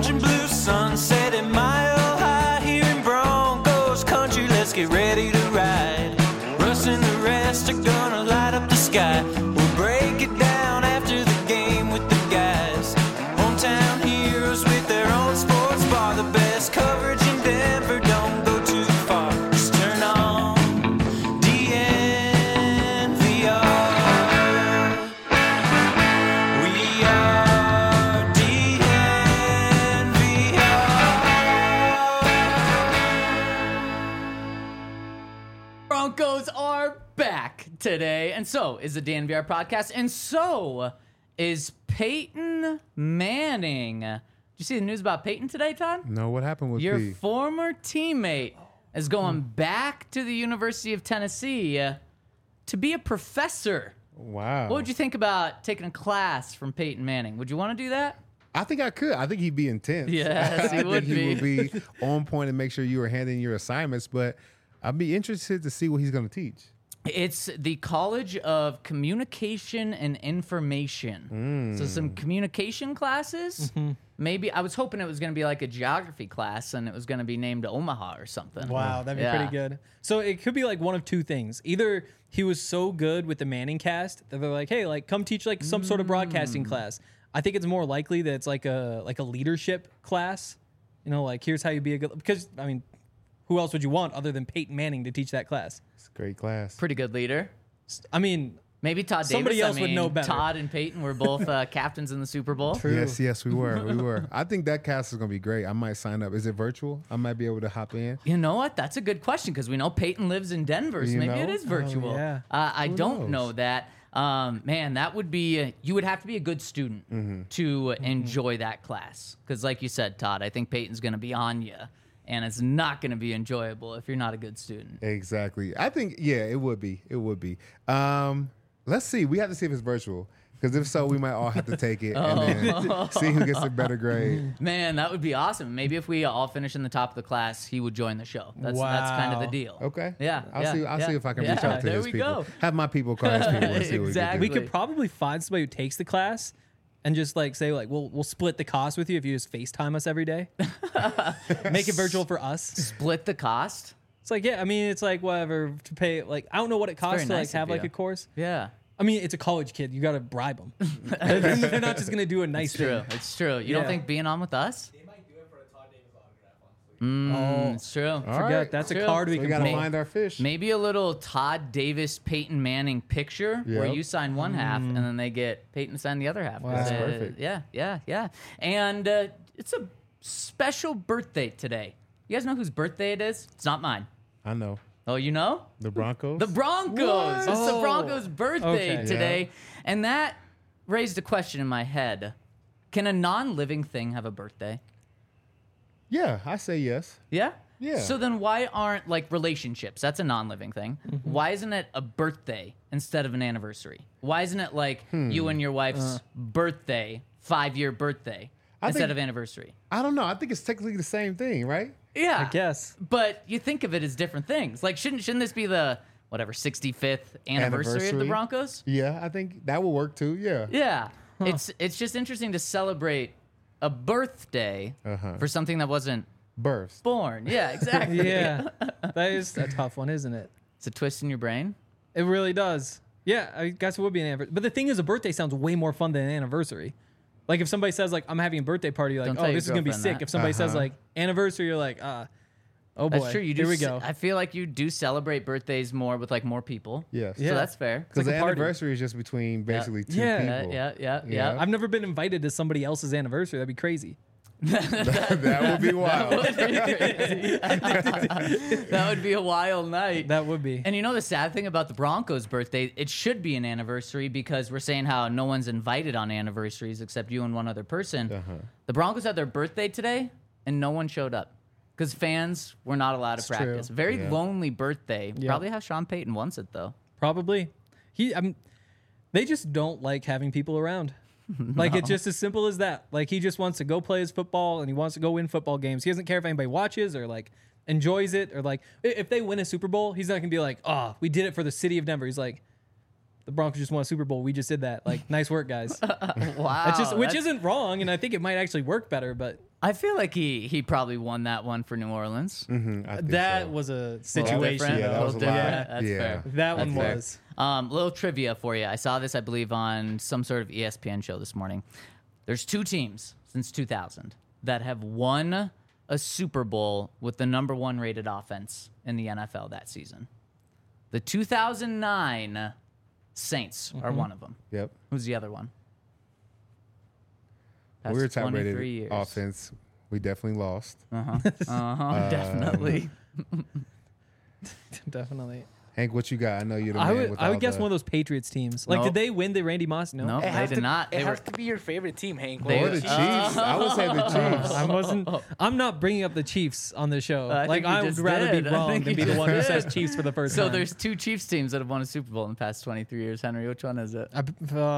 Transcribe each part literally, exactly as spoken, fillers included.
orange and blue sunset at Mile High here in Broncos country. Let's get ready to ride. Russ and the rest are gonna light up the sky. We'll break it down after the game with the guys. Hometown heroes with their own sports bar. The best coverage in Denver, don't go too far. Just turn on D N V R. We are D N V R. Broncos are back today, and so is the D N V R podcast, and so is Peyton Manning. Did you see the news about Peyton today, Todd? No, what happened with Your P? former teammate is going back to the University of Tennessee uh, to be a professor. Wow. What would you think about taking a class from Peyton Manning? Would you want to do that? I think I could. I think he'd be intense. Yes, he I would think he be. would be on point and make sure you were handing your assignments, but I'd be interested to see what he's going to teach. It's the College of Communication and Information. So some communication classes. Maybe I was hoping it was going to be like a geography class and it was going to be named Omaha or something. Wow, that'd be Yeah. pretty good. So it could be like one of two things. Either he was so good with the Manning cast that they're like, hey, like come teach like some sort of broadcasting class. I think it's more likely that it's like a like a leadership class. You know, like here's how you be a good because I mean, who else would you want other than Peyton Manning to teach that class? It's a great class. Pretty good leader. I mean, Maybe Todd Somebody Davis. else I would mean, know better. Todd and Peyton were both uh, captains in the Super Bowl. True. Yes, yes, we were. We were. I think that cast is going to be great. I might sign up. Is it virtual? I might be able to hop in. You know what? That's a good question because we know Peyton lives in Denver, so You maybe know? it is virtual. yeah. Uh, I Who don't knows? know that. Um, man, that would be, uh, you would have to be a good student Mm-hmm. to enjoy that class. Because, like you said, Todd, I think Peyton's going to be on you, and it's not going to be enjoyable if you're not a good student. Exactly. I think, yeah, it would be. It would be. Um, let's see. We have to see if it's virtual. Because if so, we might all have to take it and then see who gets a better grade. Man, that would be awesome. Maybe if we all finish in the top of the class, he would join the show. That's that's kind of the Wow. deal. Okay. Yeah. I'll yeah, see. I'll yeah. see if I can Yeah, reach out to there his we people. go. Have my people call his people and see what Exactly. we we can do. could probably find somebody who takes the class and just like say like we'll we'll split the cost with you if you just FaceTime us every day. Make it virtual for us. Split the cost. It's like, yeah, I mean, it's like whatever to pay. Like, I don't know what it costs very to like nice of have like you. a course. Yeah. I mean, it's a college kid. You got to bribe them. They're not just gonna do a nice It's true. thing. It's true. You don't Yeah. think being on with us? They might do it for a Todd Davis autograph, honestly. Mm, it's true. All Forget right. that's True. a card we So we can got to play. find our fish. Maybe a little Todd Davis, Peyton Manning picture where Yep. you sign one half and then they get Peyton to sign the other half. Wow. That's Uh, perfect. Yeah, yeah, yeah. And uh, it's a special birthday today. You guys know whose birthday it is? It's not mine. I know. Oh, you know? The Broncos? The Broncos. What? It's the Oh. Broncos' birthday Okay. today. Yeah. And that raised a question in my head. Can a non-living thing have a birthday? Yeah, I say yes. Yeah? Yeah. So then why aren't like relationships? That's a non-living thing. Mm-hmm. Why isn't it a birthday instead of an anniversary? Why isn't it like Hmm. you and your wife's birthday, five-year birthday I instead think- of anniversary? I don't know. I think it's technically the same thing, right? Yeah. I guess. But you think of it as different things. Like shouldn't shouldn't this be the whatever sixty-fifth anniversary, of the Anniversary. Broncos? Yeah, I think that will work too. Yeah. Yeah. It's it's just interesting to celebrate a birthday Uh-huh. for something that wasn't Births. born. Yeah, exactly. Yeah, that is a tough one, isn't it? It's a twist in your brain. It really does. Yeah, I guess it would be an anniversary. But the thing is, a birthday sounds way more fun than an anniversary. Like if somebody says like I'm having a birthday party, you're Don't like tell oh your this is gonna be girlfriend sick. that. If somebody says Uh-huh. like anniversary, you're like ah, oh boy, That's true. You do. here we s- go. I feel like you do celebrate birthdays more with like more people. Yes. Yeah. So that's fair. Because like the a party. anniversary is just between basically two Yeah. Yeah, people. yeah, yeah, Yeah. yeah. I've never been invited to somebody else's anniversary. That'd be crazy. that would be wild. That would be a wild night. That would be. And you know the sad thing about the Broncos' birthday? It should be an anniversary because we're saying how no one's invited on anniversaries except you and one other person. Uh-huh. The Broncos had their birthday today, and no one showed up because fans were not allowed to It's true. practice. Very Yeah. lonely birthday. Yeah. Probably how Sean Payton wants it though. Probably. He. I mean, they just don't like having people around. Like it's just as simple as that. Like he just wants to go play his football and he wants to go win football games. He doesn't care if anybody watches or like enjoys it or like i- if they win a Super Bowl, he's not gonna be like, oh, we did it for the city of Denver. He's like, the Broncos just won a Super Bowl. We just did that. Like, nice work, guys. Wow. That's just which that's- isn't wrong, and I think it might actually work better. But I feel like he he probably won that one for New Orleans. Mhm, I think That so. was a Little situation. different, Yeah, that little was a lot. different. That's Yeah. fair. That one That's fair. was. Um, little trivia for you. I saw this, I believe, on some sort of E S P N show this morning. There's two teams since two thousand that have won a Super Bowl with the number one rated offense in the N F L that season. The two thousand nine Saints are one of them. Yep. Who's the other one? Past We were top twenty-three rated years. offense. We definitely lost. Uh-huh. Uh-huh. Definitely. Definitely. Hank, what you got? I know you're the I man would with I all would guess the- one of those Patriots teams. Like, Nope. did they win the Randy Moss? No. Nope, It they has did to, not. It They has were, to be your favorite team, Hank. They- Or the Chiefs. I would say the Chiefs. I wasn't. I'm not bringing up the Chiefs on the show. I like think you I would just rather did. be I wrong think than you be the just one who did. says Chiefs for the first so time. there's two Chiefs teams that have won a Super Bowl in the past twenty-three years. Henry, which one is it? I,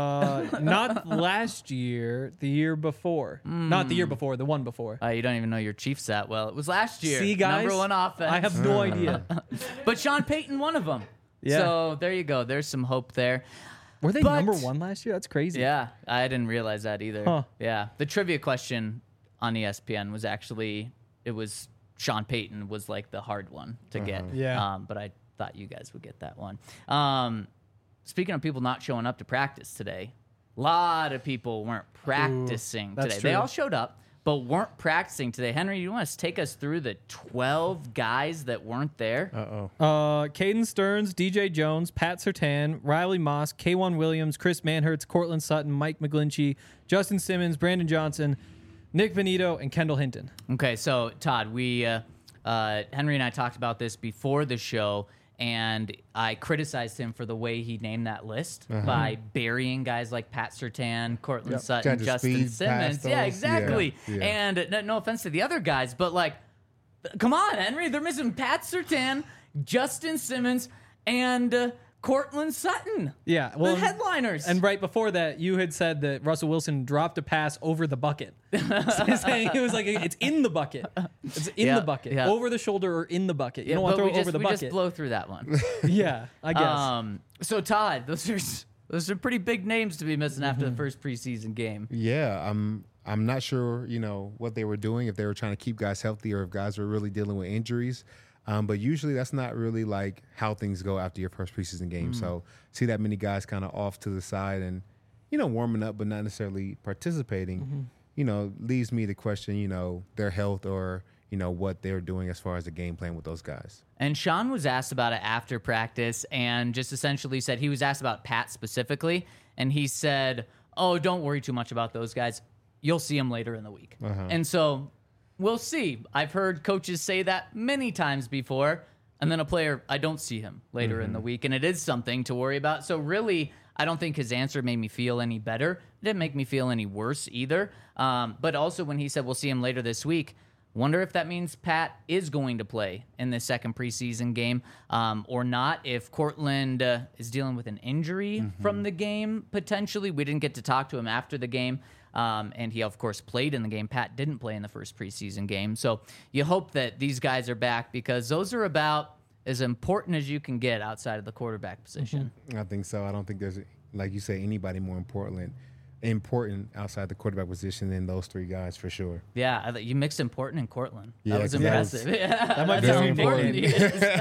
uh, not last year, the year before. Not the year before, the one before. Uh, you don't even know your Chiefs that well. It was last year. See, guys, Number one offense. I have no idea. But Sean Payton, one of them. Yeah. So there you go. There's some hope there. Were they But- number one last year? That's crazy. Yeah, I didn't realize that either. Huh. Yeah, the trivia question on E S P N was actually it was Sean Payton was like the hard one to get. Yeah. Um, but I thought you guys would get that one. Um, speaking of people not showing up to practice today, a lot of people weren't practicing that's today. They true. all showed up, but weren't practicing today. Henry, you want to take us through the twelve guys that weren't there? Uh-oh. Uh, Caden Stearns, D J Jones, Pat Surtain, Riley Moss, K'Wan Williams, Chris Manhertz, Cortland Sutton, Mike McGlinchey, Justin Simmons, Brandon Johnson, Nick Benito, and Kendall Hinton. Okay, so Todd, we uh, uh, Henry and I talked about this before the show, and I criticized him for the way he named that list by burying guys like Pat Surtain, Cortland Yep. Sutton, Tried to Justin speed Simmons. past Yeah, those. exactly. Yeah, yeah. And uh, no, no offense to the other guys, but like, come on, Henry, they're missing Pat Surtain, Justin Simmons, and uh, Cortland Sutton. Yeah, well, the headliners. And right before that, you had said that Russell Wilson dropped a pass over the bucket. So saying it was like it's in the bucket. It's in Yeah, the bucket, yeah. over the shoulder or in the bucket. You yeah, don't want but to throw we it just, over the we bucket. just blow through that one. yeah, I guess. Um, so Todd, those are those are pretty big names to be missing after the first preseason game. Yeah, I'm I'm not sure, you know, what they were doing, if they were trying to keep guys healthy or if guys were really dealing with injuries. Um, but usually that's not really like how things go after your first preseason game. So see that many guys kind of off to the side and, you know, warming up but not necessarily participating, you know, leaves me to question, you know, their health or, you know, what they're doing as far as the game plan with those guys. And Sean was asked about it after practice and just essentially said he was asked about Pat specifically, and he said, "Oh, don't worry too much about those guys. You'll see them later in the week." And so we'll see. I've heard coaches say that many times before, and then a player, I don't see him later in the week, and it is something to worry about. So really, I don't think his answer made me feel any better. It didn't make me feel any worse either. Um, but also when he said we'll see him later this week, wonder if that means Pat is going to play in the second preseason game um, or not. If Cortland uh, is dealing with an injury from the game, potentially. We didn't get to talk to him after the game. Um, and he, of course, played in the game. Pat didn't play in the first preseason game. So you hope that these guys are back because those are about as important as you can get outside of the quarterback position. I think so. I don't think there's, like you say, anybody more important important outside the quarterback position than those three guys for sure. Yeah, I, you mixed important and Cortland. Yeah, that was 'cause that was- impressive. Yeah, That might be that's how very important he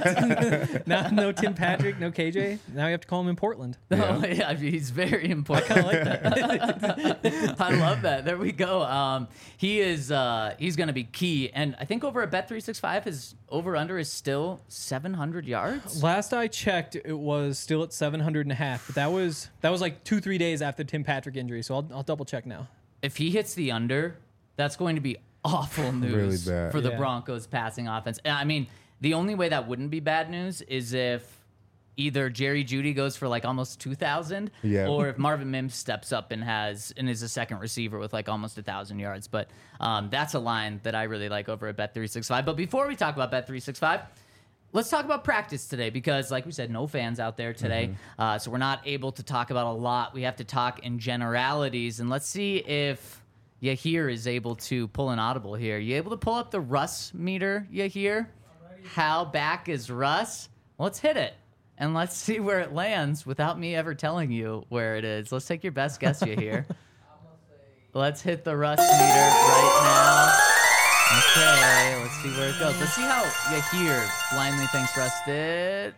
is. now, no Tim Patrick, no K J. Now you have to call him in Portland. Oh, yeah, he's very important. I like that. I love that. There we go. Um, he is. Uh, he's going to be key, and I think over at Bet three sixty-five, his over under is still seven hundred yards. Last I checked, it was still at seven hundred and a half, but that was that was like two three days after Tim Patrick injury. So I'll, I'll double check now. If he hits the under, that's going to be awful news Really bad. for the Yeah. Broncos passing offense. And I mean, the only way that wouldn't be bad news is if either Jerry Jeudy goes for like almost two thousand, Yeah. or if Marvin Mims steps up and has and is a second receiver with like almost a thousand yards. But um, that's a line that I really like over at Bet three sixty-five. But before we talk about Bet three sixty-five, let's talk about practice today because, like we said, no fans out there today. Uh, so we're not able to talk about a lot. We have to talk in generalities. And let's see if Yahir is able to pull an audible here. You able to pull up the Russ meter, Yahir? How back is Russ? Let's hit it. And let's see where it lands without me ever telling you where it is. Let's take your best guess, Yahir. Let's hit the rust meter right now. Okay, let's see where it goes. Let's see how Yahir blindly thinks rusted.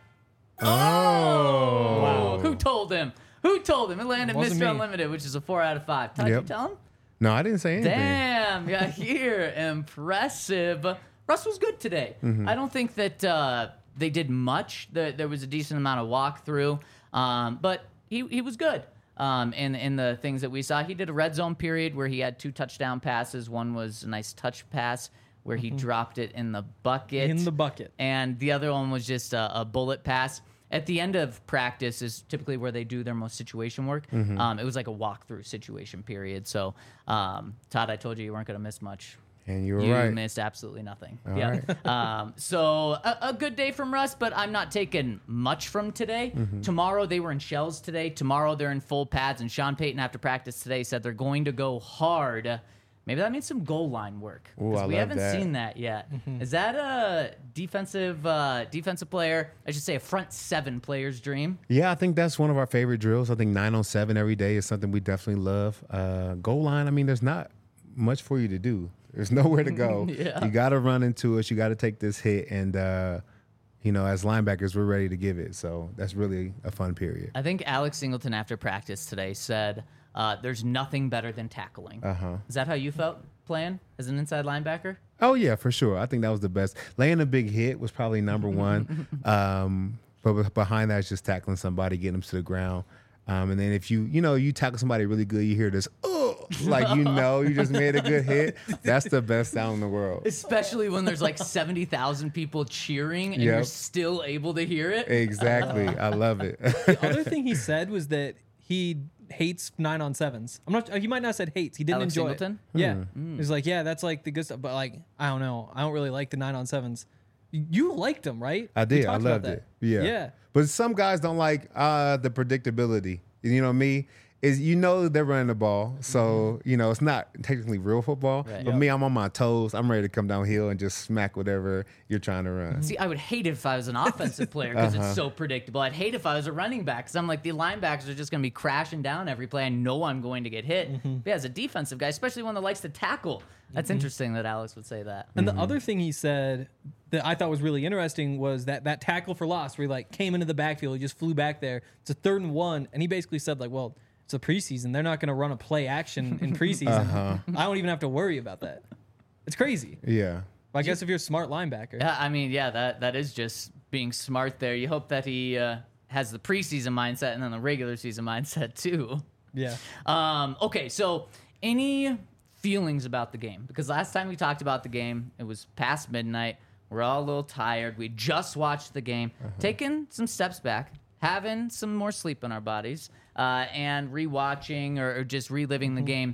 Oh. Wow. Who told him? Who told him? It landed Wasn't Mister me. Unlimited, which is a four out of five. Todd, Yep. you tell him? No, I didn't say anything. Damn, Yahir, impressive. Russ was good today. Mm-hmm. I don't think that uh, they did much. There, there was a decent amount of walkthrough, um, but he, he was good. Um, in, in the things that we saw, he did a red zone period where he had two touchdown passes. One was a nice touch pass where he dropped it in the bucket. In the bucket. And the other one was just a, a bullet pass. At the end of practice is typically where they do their most situation work. Um, it was like a walkthrough situation period. So, um, Todd, I told you you weren't going to miss much. And you were You right. missed absolutely nothing. All yeah. um, so a, a good day from Russ, but I'm not taking much from today. Mm-hmm. Tomorrow they were in shells today. Tomorrow they're in full pads. And Sean Payton after practice today said they're going to go hard. Maybe that means some goal line work. Ooh, 'Cause I we love haven't that. seen that yet. Is that a defensive uh, defensive player? I should say a front seven player's dream. Yeah, I think that's one of our favorite drills. I think nine on seven every day is something we definitely love. Uh, goal line, I mean, there's not much for you to do. There's nowhere to go. Yeah. You got to run into us. You got to take this hit. And, uh, you know, as linebackers, we're ready to give it. So that's really a fun period. I think Alex Singleton after practice today said uh, there's nothing better than tackling. Uh-huh. Is that how you felt playing as an inside linebacker? Oh, yeah, for sure. I think that was the best. Laying a big hit was probably number one. Um, but behind that is just tackling somebody, getting them to the ground. Um, and then if you, you know, you tackle somebody really good, you hear this, oh, like, you know, you just made a good hit. That's the best sound in the world. Especially when there's like seventy thousand people cheering and you're Yep. still able to hear it. Exactly. I love it. The other thing he said was that he hates nine on sevens. I'm not. He might not have said hates. He didn't Alex enjoy Singleton? it. Yeah, he's like, yeah, that's like the good stuff. But like, I don't know. I don't really like the nine on sevens. You liked them, right? I We did. I talked about loved that. it. Yeah. Yeah. But some guys don't like uh, the predictability. You know me? Is you know they're running the ball, so you know it's not technically real football. Right. But Yep. me, I'm on my toes. I'm ready to come downhill and just smack whatever you're trying to run. See, I would hate it if I was an offensive player because Uh-huh. it's so predictable. I'd hate if I was a running back because I'm like, the linebackers are just going to be crashing down every play. I know I'm going to get hit. Mm-hmm. But yeah, as a defensive guy, especially one that likes to tackle, that's interesting that Alex would say that. And Mm-hmm. the other thing he said that I thought was really interesting was that that tackle for loss where he like came into the backfield, he just flew back there. It's a third and one, and he basically said like, well, it's a preseason. They're not going to run a play action in preseason. Uh-huh. I don't even have to worry about that. It's crazy. Yeah. I guess if you're a smart linebacker. Yeah, I mean, yeah, that that is just being smart there. You hope that he uh, has the preseason mindset and then the regular season mindset too. Yeah. Um, okay, so any feelings about the game? Because last time we talked about the game, it was past midnight. We're all a little tired. We just watched the game, taking some steps back, having some more sleep in our bodies, uh, and rewatching or, or just reliving the game.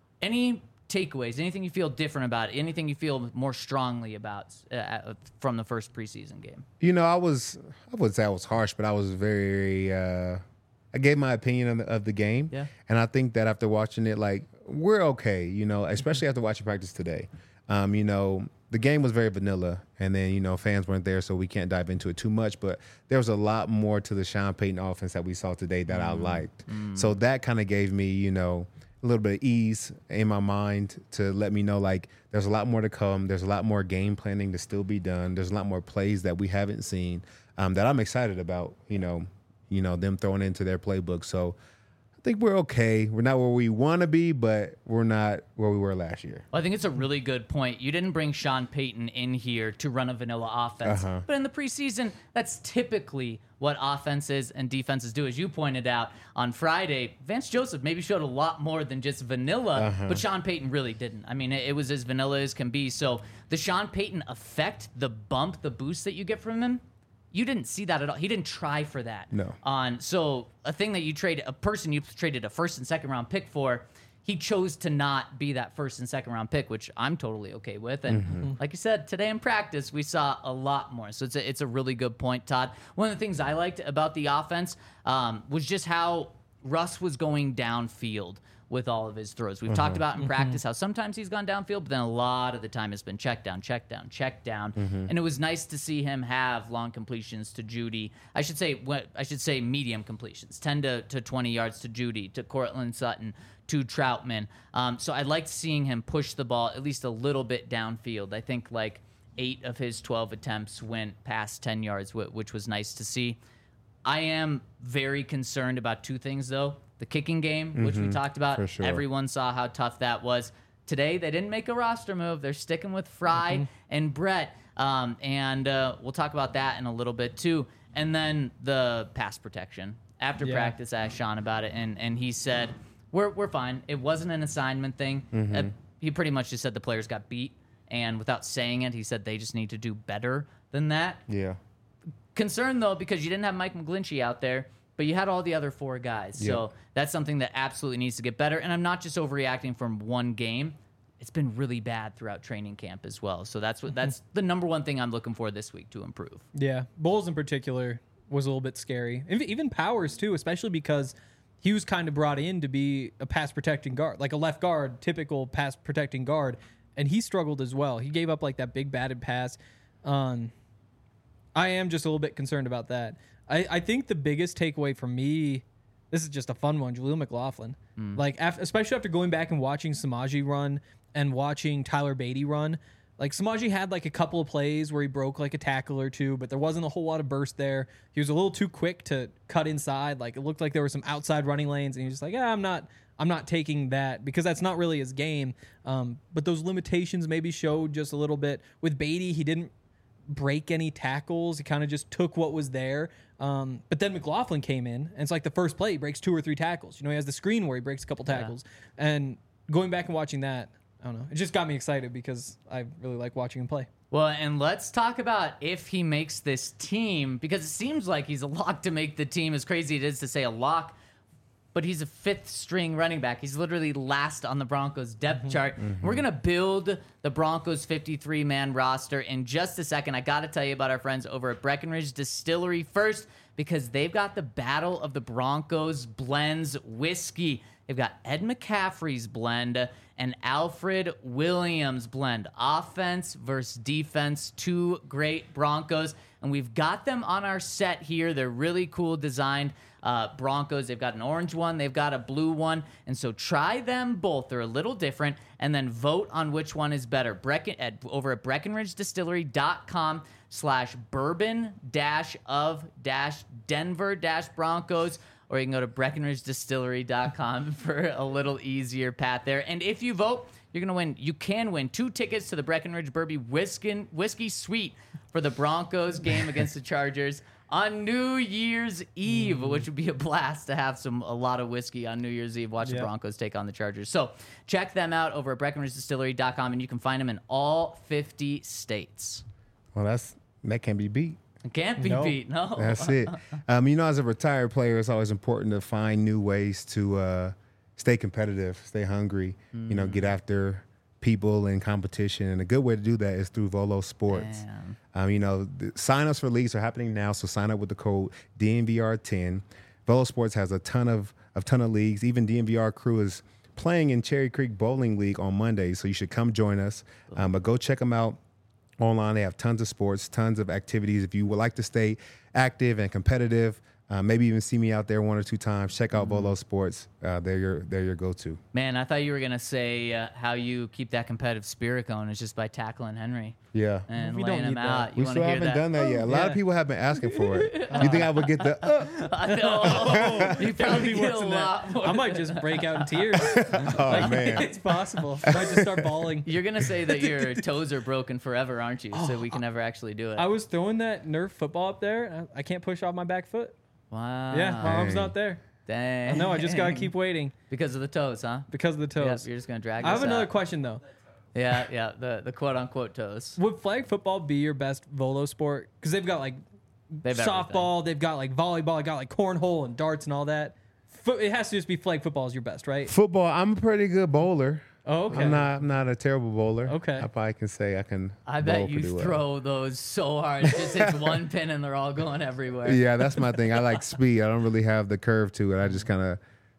Any takeaways? Anything you feel different about? Anything you feel more strongly about uh, from the first preseason game? You know, I was, I would say I was harsh, but I was very, uh, I gave my opinion of the, of the game. Yeah. And I think that after watching it, like, we're okay, you know, especially after watching practice today. Um, you know, the game was very vanilla, and then, you know, fans weren't there, so we can't dive into it too much, but there was a lot more to the Sean Payton offense that we saw today that I liked. So that kind of gave me, you know, a little bit of ease in my mind to let me know, like, there's a lot more to come. There's a lot more game planning to still be done. There's a lot more plays that we haven't seen um, that I'm excited about, you know, you know, them throwing into their playbook. So I think we're okay. We're not where we want to be, but we're not where we were last year. Well, I think it's a really good point. You didn't bring Sean Payton in here to run a vanilla offense. Uh-huh. But in the preseason, that's typically what offenses and defenses do. As you pointed out on Friday, Vance Joseph maybe showed a lot more than just vanilla, Uh-huh. but Sean Payton really didn't. I mean, it, it was as vanilla as can be. So the Sean Payton effect, the bump, the boost that you get from him, you didn't see that at all. He didn't try for that. No. On so a thing that you trade a person you traded a first and second round pick for, he chose to not be that first and second round pick, which I'm totally okay with. And Mm-hmm. like you said, today in practice we saw a lot more. So it's a, it's a really good point, Todd. One of the things I liked about the offense um, was just how Russ was going downfield with all of his throws. We've talked about in practice how sometimes he's gone downfield, but then a lot of the time it's been check down, check down, check down. And it was nice to see him have long completions to Judy. I should say what I should say medium completions, ten to, to twenty yards to Judy, to Cortland Sutton, to Troutman. Um, so I liked seeing him push the ball at least a little bit downfield. I think like eight of his twelve attempts went past ten yards, wh- which was nice to see. I am very concerned about two things, though. The kicking game, which we talked about. for sure. Everyone saw how tough that was. Today, they didn't make a roster move. They're sticking with Fry and Brett. Um, and uh, we'll talk about that in a little bit, too. And then the pass protection. After Yeah. practice, I asked Sean about it, and, and he said, we're, we're fine. It wasn't an assignment thing. Uh, he pretty much just said the players got beat. And without saying it, he said they just need to do better than that. Yeah. Concerned, though, because you didn't have Mike McGlinchey out there, but you had all the other four guys. So Yep. that's something that absolutely needs to get better. And I'm not just overreacting from one game. It's been really bad throughout training camp as well. So that's what that's the number one thing I'm looking for this week to improve. Yeah, Bowles in particular was a little bit scary. Ev- Even Powers too, especially because he was kind of brought in to be a pass protecting guard, like a left guard, typical pass protecting guard, and he struggled as well. He gave up like that big batted pass. Um, I am just a little bit concerned about that. I, I think the biggest takeaway for me, this is just a fun one, Jaleel McLaughlin. Like, af- especially after going back and watching Samaji run and watching Tyler Beatty run. Like, Samaji had like a couple of plays where he broke like a tackle or two, but there wasn't a whole lot of burst there. He was a little too quick to cut inside. Like, it looked like there were some outside running lanes, and he was just like, yeah, I'm not, I'm not taking that because that's not really his game. Um, but those limitations maybe showed just a little bit. With Beatty, he didn't break any tackles. He kind of just took what was there. Um, but then McLaughlin came in, and it's like the first play, he breaks two or three tackles. You know, he has the screen where he breaks a couple tackles. And going back and watching that, I don't know, it just got me excited because I really like watching him play. Well, and let's talk about if he makes this team, because it seems like he's a lock to make the team, as crazy it is to say a lock, but he's a fifth string running back. He's literally last on the Broncos depth chart. We're going to build the Broncos fifty-three man roster in just a second. I got to tell you about our friends over at Breckenridge Distillery first, because they've got the Battle of the Broncos blends whiskey. They've got Ed McCaffrey's blend and Alfred Williams blend. Offense versus defense, two great Broncos. And we've got them on our set here. They're really cool designed uh, Broncos. They've got an orange one. They've got a blue one. And so try them both. They're a little different. And then vote on which one is better. Brecken, at, over at BreckenridgeDistillery.com slash bourbon dash of dash Denver dash Broncos. Or you can go to Breckenridge Distillery dot com for a little easier path there. And if you vote, you're going to win. You can win two tickets to the Breckenridge Bourbon Whiskey, Whiskey Suite for the Broncos game against the Chargers on New Year's Eve, Mm. which would be a blast to have some a lot of whiskey on New Year's Eve. Watch Yep. the Broncos take on the Chargers. So check them out over at Breckenridge Distillery dot com, and you can find them in all fifty states. Well, that's that can't be beat. It can't be No. beat, no. That's it. Um, you know, as a retired player, it's always important to find new ways to uh, stay competitive, stay hungry, you know, get after people in competition. And a good way to do that is through Volo Sports. Damn. Um, you know, the sign-ups for leagues are happening now, so sign up with the code D N V R ten. Volo Sports has a ton of, a ton of leagues. Even D N V R crew is playing in Cherry Creek Bowling League on Monday, so you should come join us. Um, but go check them out online. They have tons of sports, tons of activities. If you would like to stay active and competitive, uh, maybe even see me out there one or two times, check out Volo Sports. Uh, they're your they're your go-to. Man, I thought you were going to say uh, how you keep that competitive spirit going is just by tackling Henry Yeah. and We don't laying him need out. that. You We want still to hear haven't that? done that yet. A lot yeah. of people have been asking for it. You think I would get the uh, I know. You probably Be get a worse than lot that. more. I might just break out in tears. oh man. It's possible. I might just start bawling. You're going to say that your toes are broken forever, aren't you? So we can never actually do it. I was throwing that Nerf football up there. And I I can't push off my back foot. Wow. Yeah, my arm's Dang. not there. Dang. No, I just gotta keep waiting Because of the toes, huh? because of the Yep, toes. you're just going to drag I have us another out. question though. Yeah, yeah, the, the quote-unquote toes. Would flag football be your best volo sport? Because they've got like They've softball, they've got like volleyball, they got like cornhole and darts and all that. Fo- it has to just be flag football is your best, right? Football, I'm a pretty good bowler. Oh, okay. I'm not I'm not a terrible bowler. Okay. I probably can say I can I bowl bet you pretty well. throw those so hard. It just hits one pin and they're all going everywhere. Yeah, that's my thing. I like speed. I don't really have the curve to it. I just kind of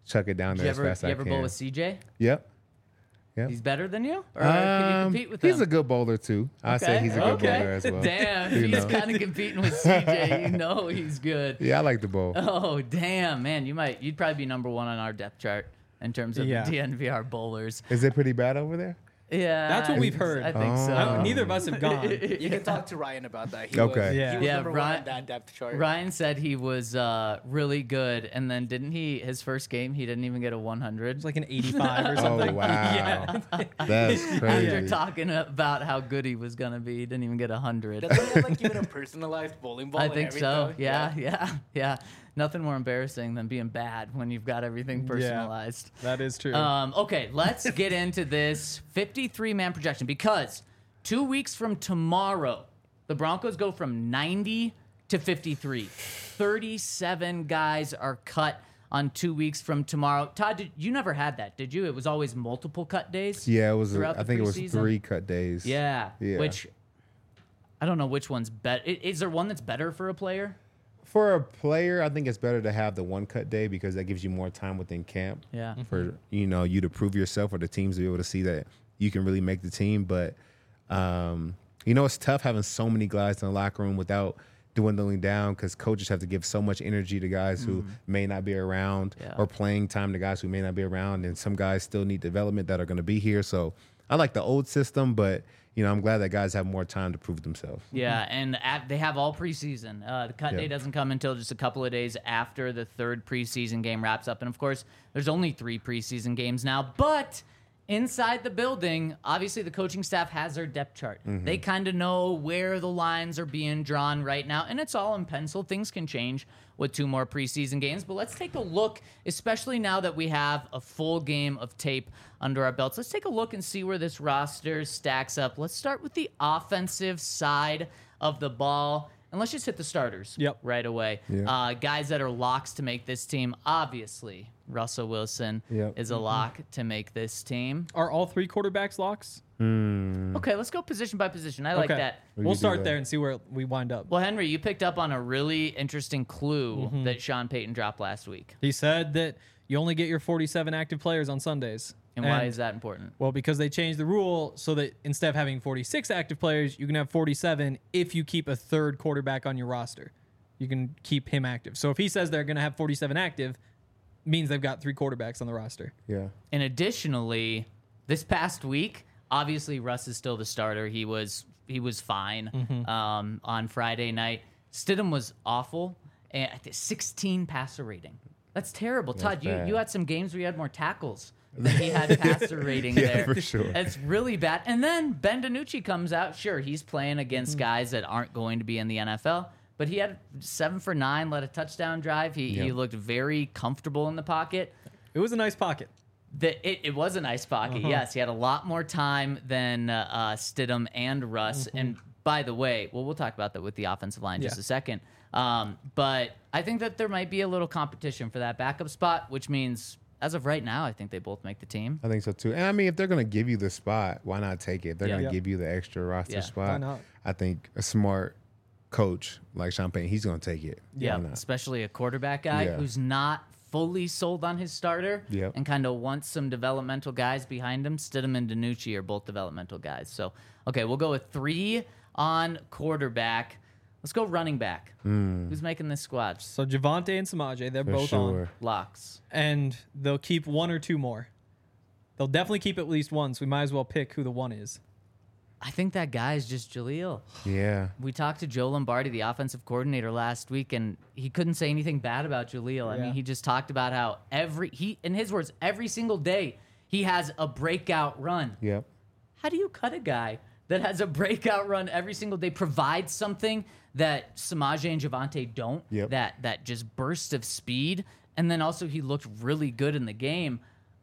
chuck it down Did there you as ever, fast you as I ever can. bowl with C J? Yep. Yep. He's better than you? Or can you Um, compete with he's him? a good bowler too. I say he's a good okay. bowler as well. Damn, You he's know. kind of competing with C J. You know he's good. Yeah, I like the bowl. Oh, damn, man. You might, you'd probably be number one on our depth chart in terms of Yeah. D N V R bowlers. Is it pretty bad over there? Yeah. That's what we've heard. I think Oh. so. I don't- neither of us have gone. You can talk to Ryan about that. He Okay. Was, Yeah. He was Yeah, number one Ryan- on that depth chart. Ryan said he was uh, really good, and then didn't he? His first game, he didn't even get a one hundred. It's like an eighty-five or something. Oh wow, Yeah. that's After crazy. talking about how good he was gonna be, he didn't even get a hundred. Doesn't he have like even a personalized bowling ball? I and think so. everything? Yeah, yeah, yeah. Nothing more embarrassing than being bad when you've got everything Yeah. personalized. That is true. Um, okay, let's get into this fifty-three man projection because two weeks from tomorrow, the Broncos go from ninety to fifty-three. thirty-seven guys are cut on two weeks from tomorrow. Todd, did, you never had that, did you? It was always multiple cut days? Yeah, it was. A, throughout I the think it was preseason? three cut days. Yeah. Yeah. Which, I don't know which one's better. Is there one that's better for a player? For a player, I think it's better to have the one cut day because that gives you more time within camp. Yeah. For you know you to prove yourself or the teams to be able to see that you can really make the team. But um, you know it's tough having so many guys in the locker room without dwindling down because coaches have to give so much energy to guys who may not be around Yeah. or playing time to guys who may not be around, and some guys still need development that are going to be here. So I like the old system, but you know I'm glad that guys have more time to prove themselves. Yeah, and at, they have all preseason. Uh, the cut Yeah. day doesn't come until just a couple of days after the third preseason game wraps up. And of course, there's only three preseason games now. But inside the building, obviously the coaching staff has their depth chart. They kind of know where the lines are being drawn right now. And it's all in pencil. Things can change with two more preseason games. But let's take a look, especially now that we have a full game of tape under our belts. Let's take a look and see where this roster stacks up. Let's start with the offensive side of the ball. And let's just hit the starters Yep. right away. Yeah. Uh, guys that are locks to make this team. Obviously, Russell Wilson Yep. is a lock to make this team. Are all three quarterbacks locks? Okay, let's go position by position. I like okay. that. We We'll can do start that. there and see where we wind up. Well, Henry, you picked up on a really interesting clue Mm-hmm. that Sean Payton dropped last week. He said that you only get your forty-seven active players on Sundays. And why is that important? Well, because they changed the rule so that instead of having forty-six active players, you can have forty-seven if you keep a third quarterback on your roster. You can keep him active. So if he says they're going to have forty-seven active, means they've got three quarterbacks on the roster. Yeah. And additionally, this past week, obviously Russ is still the starter. He was he was fine Mm-hmm. um, on Friday night. Stidham was awful. And I think sixteen passer rating. That's terrible. Todd, you, bad. you had some games where you had more tackles than he had passer rating Yeah, there. for sure. It's really bad. And then Ben DiNucci comes out. Sure, he's playing against guys that aren't going to be in the N F L. But he had seven for nine, led a touchdown drive. He, he Yeah. looked very comfortable in the pocket. It was a nice pocket. The, it, it was a nice pocket. Uh-huh. Yes, he had a lot more time than uh, uh, Stidham and Russ. And by the way, well, we'll talk about that with the offensive line in just Yeah. a second. Um, but I think that there might be a little competition for that backup spot, which means as of right now, I think they both make the team. I think so too. And I mean, if they're gonna give you the spot, why not take it? If they're Yeah. gonna Yeah. give you the extra roster Yeah. spot, Why not? I think a smart coach like Sean Payton, he's gonna take it. Yeah, Why not? especially a quarterback guy Yeah. who's not fully sold on his starter Yep. and kind of wants some developmental guys behind him. Stidham and DiNucci are both developmental guys. So, okay, we'll go with three on quarterback. Let's go running back. Who's making this squad? So Javante and Samaje, they're For both on. sure. Locks. And they'll keep one or two more. They'll definitely keep at least one, so we might as well pick who the one is. I think that guy is just Jaleel. Yeah. We talked to Joe Lombardi, the offensive coordinator, last week, and he couldn't say anything bad about Jaleel. I Yeah. mean, he just talked about how every he, in his words, every single day he has a breakout run. Yep. How do you cut a guy that has a breakout run every single day, provides something that Samaje and Javante don't, Yep. that that just burst of speed, and then also he looked really good in the game.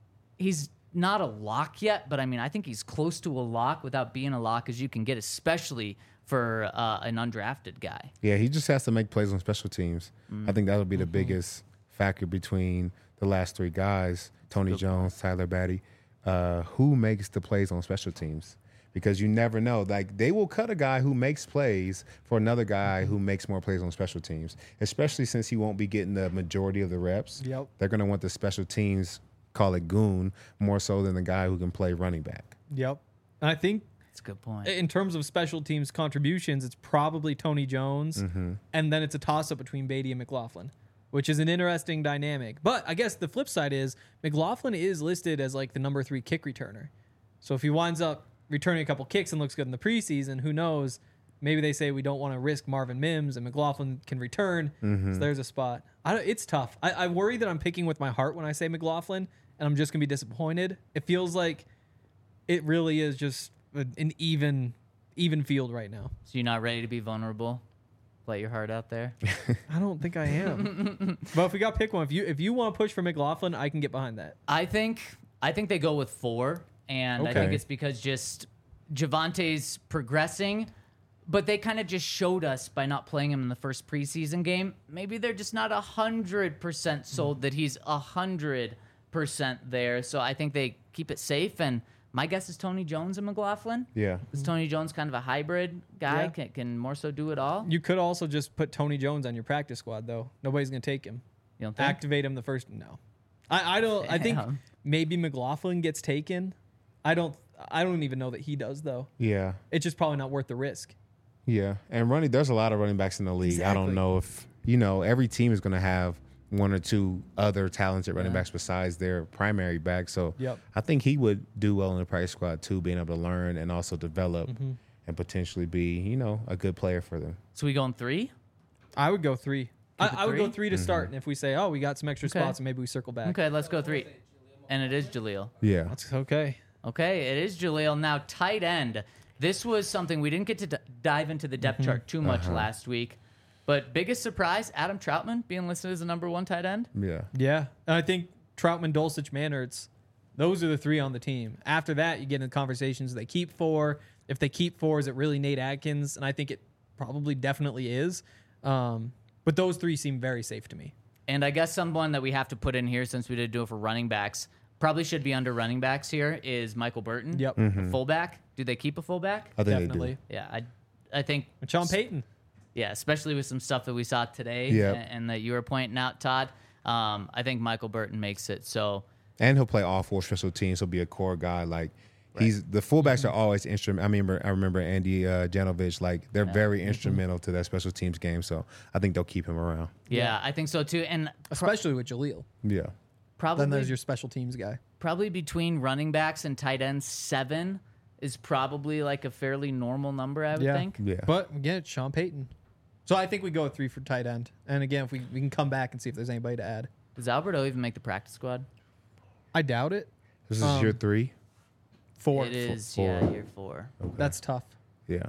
He's not a lock yet, but I mean, I think he's close to a lock without being a lock as you can get, especially for uh, an undrafted guy. Yeah, he just has to make plays on special teams. Mm. I think that'll be the Mm-hmm. biggest factor between the last three guys, Tony Jones, Tyler Batty, uh, who makes the plays on special teams. because you never know. Like they will cut a guy who makes plays for another guy who makes more plays on special teams, especially since he won't be getting the majority of the reps. Yep. They're going to want the special teams, call it goon, more so than the guy who can play running back. Yep. And I think That's a good point. in terms of special teams contributions, it's probably Tony Jones, and then it's a toss up between Beatty and McLaughlin, which is an interesting dynamic. But I guess the flip side is McLaughlin is listed as like the number three kick returner. So if he winds up returning a couple kicks and looks good in the preseason, who knows? Maybe they say we don't want to risk Marvin Mims and McLaughlin can return. So there's a spot. I don't, it's tough. I, I worry that I'm picking with my heart when I say McLaughlin, and I'm just gonna be disappointed. It feels like it really is just an even even field right now. So you're not ready to be vulnerable? Let your heart out there. I don't think I am. But if we got to pick one, if you if you want to push for McLaughlin, I can get behind that. I think I think they go with four, and I think Okay. it's because just Javante's progressing, but they kind of just showed us by not playing him in the first preseason game. Maybe they're just not a hundred percent sold that he's a hundred percent there. So I think they keep it safe. And my guess is Tony Jones and McLaughlin. Yeah. Is Tony Jones kind of a hybrid guy? Yeah. Can, can more so do it all? You could also just put Tony Jones on your practice squad, though. Nobody's going to take him. You don't think? Activate him the first. No, I, I don't. I think Damn. maybe McLaughlin gets taken. I don't. I don't even know that he does though. Yeah. It's just probably not worth the risk. Yeah. And running, there's a lot of running backs in the league. I Exactly. don't know if, you know, every team is going to have one or two other talented running Yeah. backs besides their primary back. So Yep. I think he would do well in the practice squad too, being able to learn and also develop Mm-hmm. and potentially be, you know, a good player for them. So we going three? I would go three. I, Keep it I would go three? three to start, and if we say, oh, we got some extra Okay. spots, and maybe we circle back. Okay, let's go three. And it is Jaleel. Yeah. That's okay. Okay, it is Jaleel. Now, tight end. This was something we didn't get to d- dive into the depth chart too much last week. But biggest surprise, Adam Troutman being listed as the number one tight end. Yeah. Yeah, and I think Troutman, Dulcich, Mannertz, those are the three on the team. After that, you get into conversations. They keep four. If they keep four, is it really Nate Adkins? And I think it probably definitely is. Um, but those three seem very safe to me. And I guess someone that we have to put in here since we did do it for running backs, probably should be under running backs here, is Michael Burton. Yep. The fullback. Do they keep a fullback? I think Definitely. Yeah, I, I think. And Sean Payton. Yeah, especially with some stuff that we saw today Yep. a- and that you were pointing out, Todd. Um, I think Michael Burton makes it. So they do. And he'll play all four special teams. He'll be a core guy. Like, he's the fullbacks are always instrumental. I remember, I remember Andy uh, Janovich. Like, they're very instrumental to that special teams game. So I think they'll keep him around. yeah, I think so too. And pro- Especially with Jaleel. Yeah. probably Then there's your special teams guy. probably between running backs and tight ends, seven is probably like a fairly normal number, I would Yeah. think. Yeah. But again, it's Sean Payton. So I think we go with three for tight end. And again, if we, we can come back and see if there's anybody to add. Does Alberto even make the practice squad? I doubt it. This is Um, year three. Four. It is, four. yeah, year four. That's tough. Yeah.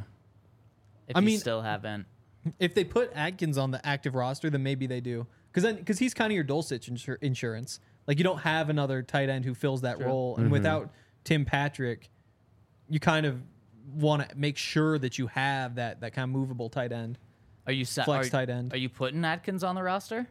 If I you mean- still haven't. If they put Adkins on the active roster, then maybe they do. Because then, because he's kind of your Dulcich insur- insurance. Like you don't have another tight end who fills that role, and without Tim Patrick, you kind of want to make sure that you have that that kind of movable tight end. Are you sa- Flex are, tight end. Are you putting Atkins on the roster?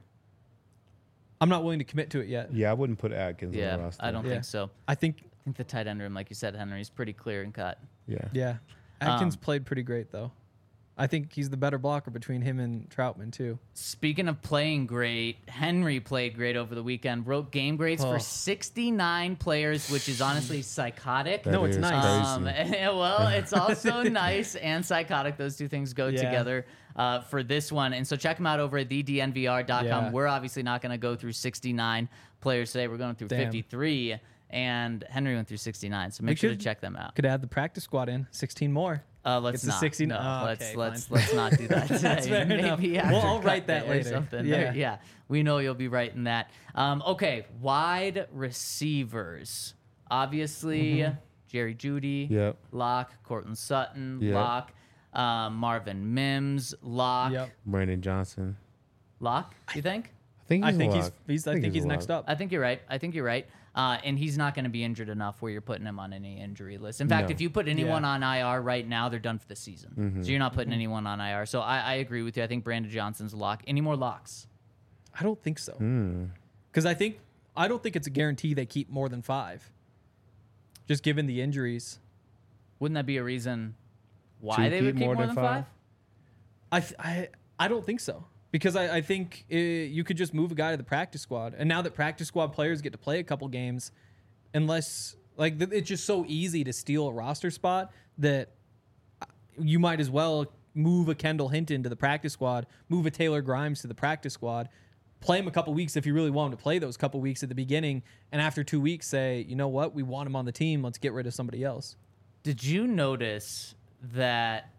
I'm not willing to commit to it yet. Yeah, I wouldn't put Atkins on Yeah, the roster. I don't Yeah. think so. I think, I think the tight end room, like you said, Henry, is pretty clear and cut. Yeah. yeah, Adkins Um, played pretty great though. I think he's the better blocker between him and Troutman too. Speaking of playing great, Henry played great over the weekend. Broke game grades Oh. for sixty-nine players, which is honestly psychotic. That No, it's is nice. crazy. Um, well, it's also nice and psychotic. Those two things go Yeah. together uh, for this one. And so check them out over at the d n v r dot com. Yeah. We're obviously not going to go through sixty-nine players today. We're going through Damn. fifty-three, and Henry went through sixty-nine. So make We sure could- to check them out. Could add the practice squad in sixteen more. Uh, let's It's a not. sixteen No, oh, let's okay, let's fine. let's not do that today. That's fair enough. Maybe Well, after I'll write cut that day or later. something. Yeah. There- yeah. We know you'll be writing that. Um, okay, wide receivers. Obviously, Mm-hmm. Jerry Judy, Yep. Lock, Cortland Sutton, Yep. Lock, um, Marvin Mims, Lock, Yep. Brandon Johnson. Lock. You think? I think I he's think a he's, lock. he's I think he's a next lock. up. I think you're right. I think you're right. Uh, and he's not going to be injured enough where you're putting him on any injury list. In fact, No. if you put anyone Yeah. on I R right now, they're done for the season. Mm-hmm. So you're not putting anyone on I R. So I, I agree with you. I think Brandon Johnson's a lock. Any more locks? I don't think so. Hmm. Because I think I don't think it's a guarantee they keep more than five. Just given the injuries. Wouldn't that be a reason why To they would keep more, than five? I, th- I I don't think so because I, I think uh you could just move a guy to the practice squad, and now that practice squad players get to play a couple games, unless like th- it's just so easy to steal a roster spot that you might as well move a Kendall Hinton to the practice squad, move a Taylor Grimes to the practice squad, play him a couple weeks if you really want him to play those couple weeks at the beginning, and after two weeks say, you know what, we want him on the team, let's get rid of somebody else. Did you notice that?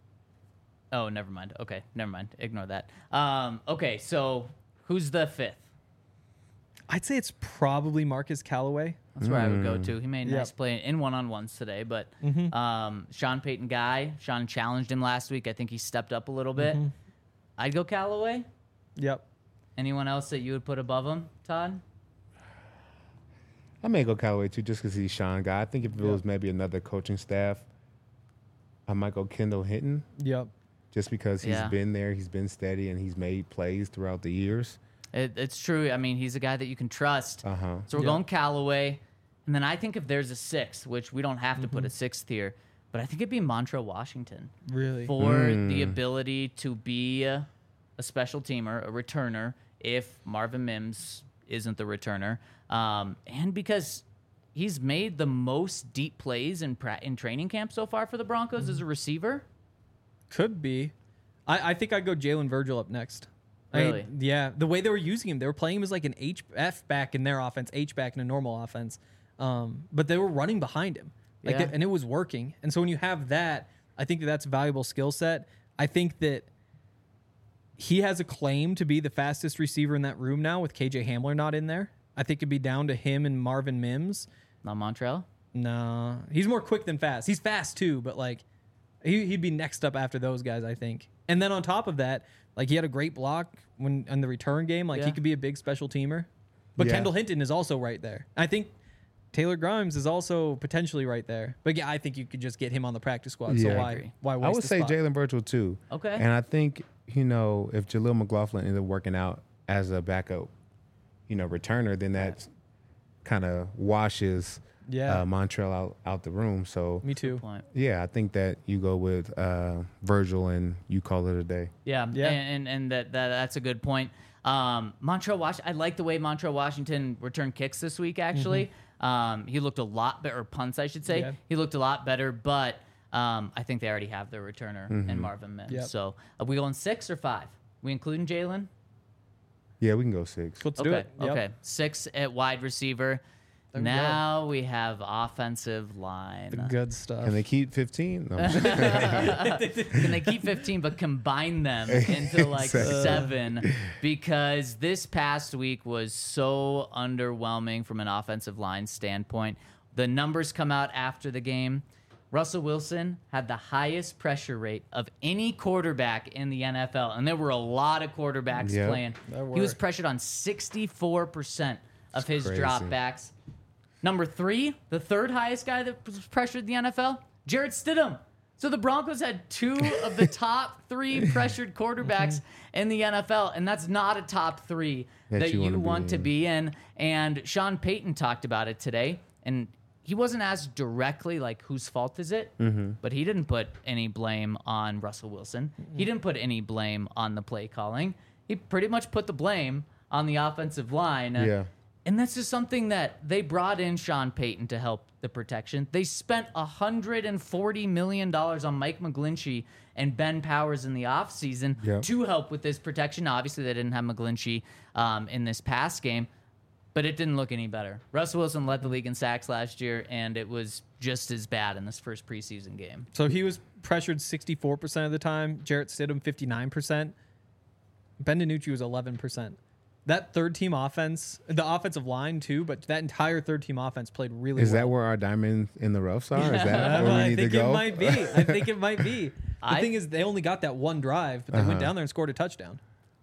Oh, never mind. Okay, never mind. Ignore that. Um, okay, so who's the fifth? I'd say it's probably Marcus Callaway. That's where I would go to. He made a Yep. nice play in one-on-ones today, but um, Sean Payton guy. Sean challenged him last week. I think he stepped up a little bit. I'd go Callaway. Yep. Anyone else that you would put above him, Todd? I may go Callaway too, just because he's Sean guy. I think if it was maybe another coaching staff, I might go Kendall Hinton, Yep. just because he's Yeah. been there, he's been steady, and he's made plays throughout the years. It, it's true. I mean, he's a guy that you can trust. Uh huh. So we're Yeah. going Callaway. And then I think if there's a sixth, which we don't have to put a sixth here, but I think it'd be Montrell Washington Really? for the ability to be a, a special teamer, a returner, if Marvin Mims isn't the returner. Um, and because he's made the most deep plays in, pra- in training camp so far for the Broncos as a receiver. Could be. I, I think I'd go Jalen Virgil up next. I mean, Really? yeah. The way they were using him, they were playing him as like an H F back in their offense, H back in a normal offense. Um, but they were running behind him, like, Yeah. they- and it was working. And so when you have that, I think that that's a valuable skill set. I think that he has a claim to be the fastest receiver in that room now with K J Hamler not in there. I think it'd be down to him and Marvin Mims. Not Montrell. No, he's more quick than fast. He's fast too, but like he, he'd be next up after those guys, I think. And then on top of that, like he had a great block when in the return game. Like Yeah. he could be a big special teamer. But Yeah. Kendall Hinton is also right there. I think Taylor Grimes is also potentially right there. But yeah, I think you could just get him on the practice squad. So Yeah. I why agree. why waste I would the say spot? Jalen Virgil too. Okay. And I think, you know, if Jaleel McLaughlin ended up working out as a backup, you know, returner, then that kind of washes Yeah. uh, Montrell out, out the room. So, Me too. Point. yeah, I think that you go with uh, Virgil and you call it a day. Yeah, Yeah. and and, and that, that that's a good point. Um, Montrell Washington, I like the way Montrell Washington returned kicks this week. Actually, um, he looked a lot better, or punts, I should say. Yeah. He looked a lot better, but um, I think they already have their returner in Marvin Mims. Yep. So, are we going six or five? We including Jalen? Yeah, we can go six. Let's do Okay, it. Yep. okay. Six at wide receiver. There we go. Now we have offensive line. The good stuff. Can they keep fifteen? No, I'm just kidding. Can they keep fifteen but combine them into like Exactly. seven? Because this past week was so underwhelming from an offensive line standpoint. The numbers come out after the game. Russell Wilson had the highest pressure rate of any quarterback in the N F L, and there were a lot of quarterbacks Yep. playing. There He was were. pressured on sixty-four percent of his crazy. dropbacks. Number three, the third highest guy that was pressured in the N F L, Jarrett Stidham. So the Broncos had two of the top three pressured quarterbacks in the N F L, and that's not a top three that, That you, you wanna be want to in. be in. And Sean Payton talked about it today, and he wasn't asked directly, like, whose fault is it? Mm-hmm. But he didn't put any blame on Russell Wilson. He didn't put any blame on the play calling. He pretty much put the blame on the offensive line. Yeah. And that's just something that they brought in Sean Payton to help the protection. They spent one hundred forty million dollars on Mike McGlinchey and Ben Powers in the offseason Yeah. to help with this protection. Obviously, they didn't have McGlinchey um, in this past game, but it didn't look any better. Russell Wilson led the league in sacks last year, and it was just as bad in this first preseason game. So he was pressured sixty-four percent of the time. Jarrett Stidham, fifty-nine percent. Ben DiNucci was eleven percent. That third team offense, the offensive line too, but that entire third team offense played really Is well. that where our diamond in the roughs are? Is that where we I need to think go? it might be. I think it might be. The I- thing is, they only got that one drive, but they went Uh-huh. down there and scored a touchdown.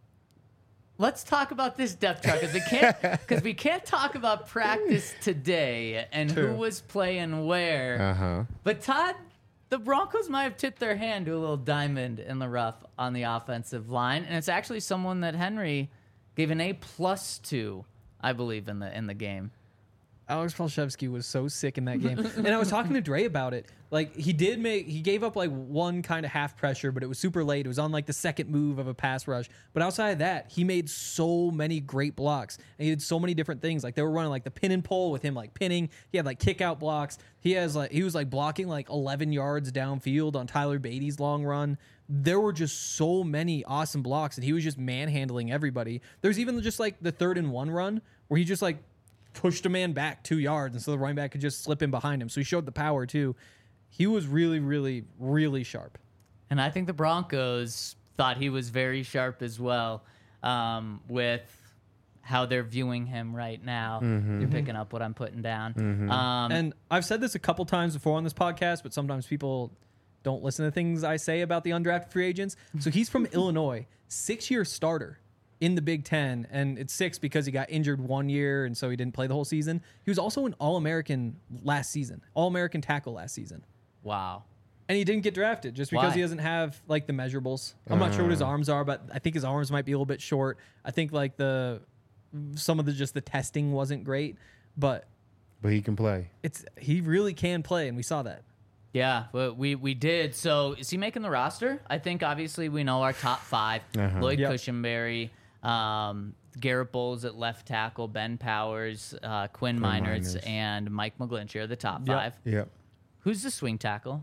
Let's talk about this depth chart because we can't because we can't talk about practice today and who True. was playing where. Uh huh. But Todd, the Broncos might have tipped their hand to a little diamond in the rough on the offensive line, and it's actually someone that Henry gave an A plus to, I believe, in the in the game. Alex Palshevsky was so sick in that game. And I was talking to Dre about it. Like, he did make, he gave up like one kind of half pressure, but it was super late. It was on like the second move of a pass rush. But outside of that, he made so many great blocks. And he did so many different things. Like, they were running like the pin and pull with him, like pinning. He had like kick out blocks. He has like, he was like blocking like eleven yards downfield on Tyler Beatty's long run. There were just so many awesome blocks, and he was just manhandling everybody. There's even just like the third and one run where he just like pushed a man back two yards, and so the running back could just slip in behind him. So he showed the power too. He was really, really, really sharp. And I think the Broncos thought he was very sharp as well, um, with how they're viewing him right now. Mm-hmm. You're picking up what I'm putting down. Um, And I've said this a couple times before on this podcast, but sometimes people don't listen to things I say about the undrafted free agents. So he's from Illinois, six-year starter in the Big Ten, and it's six because he got injured one year, and so he didn't play the whole season. He was also an All-American last season, All-American tackle last season. wow. And he didn't get drafted just because Why? he doesn't have like the measurables. I'm not sure what his arms are, but I think his arms might be a little bit short. I think like the some of the just the testing wasn't great, but But he can play. it's he really can play, and we saw that. Yeah, well, we we did. So is he making the roster? I think obviously we know our top five: Uh-huh. Lloyd Yep. Cushenberry, um, Garrett Bowles at left tackle, Ben Powers, uh, Quinn, Meinerz, Meinerz. and Mike McGlinchey are the top Yep. five. Yep. Who's the swing tackle?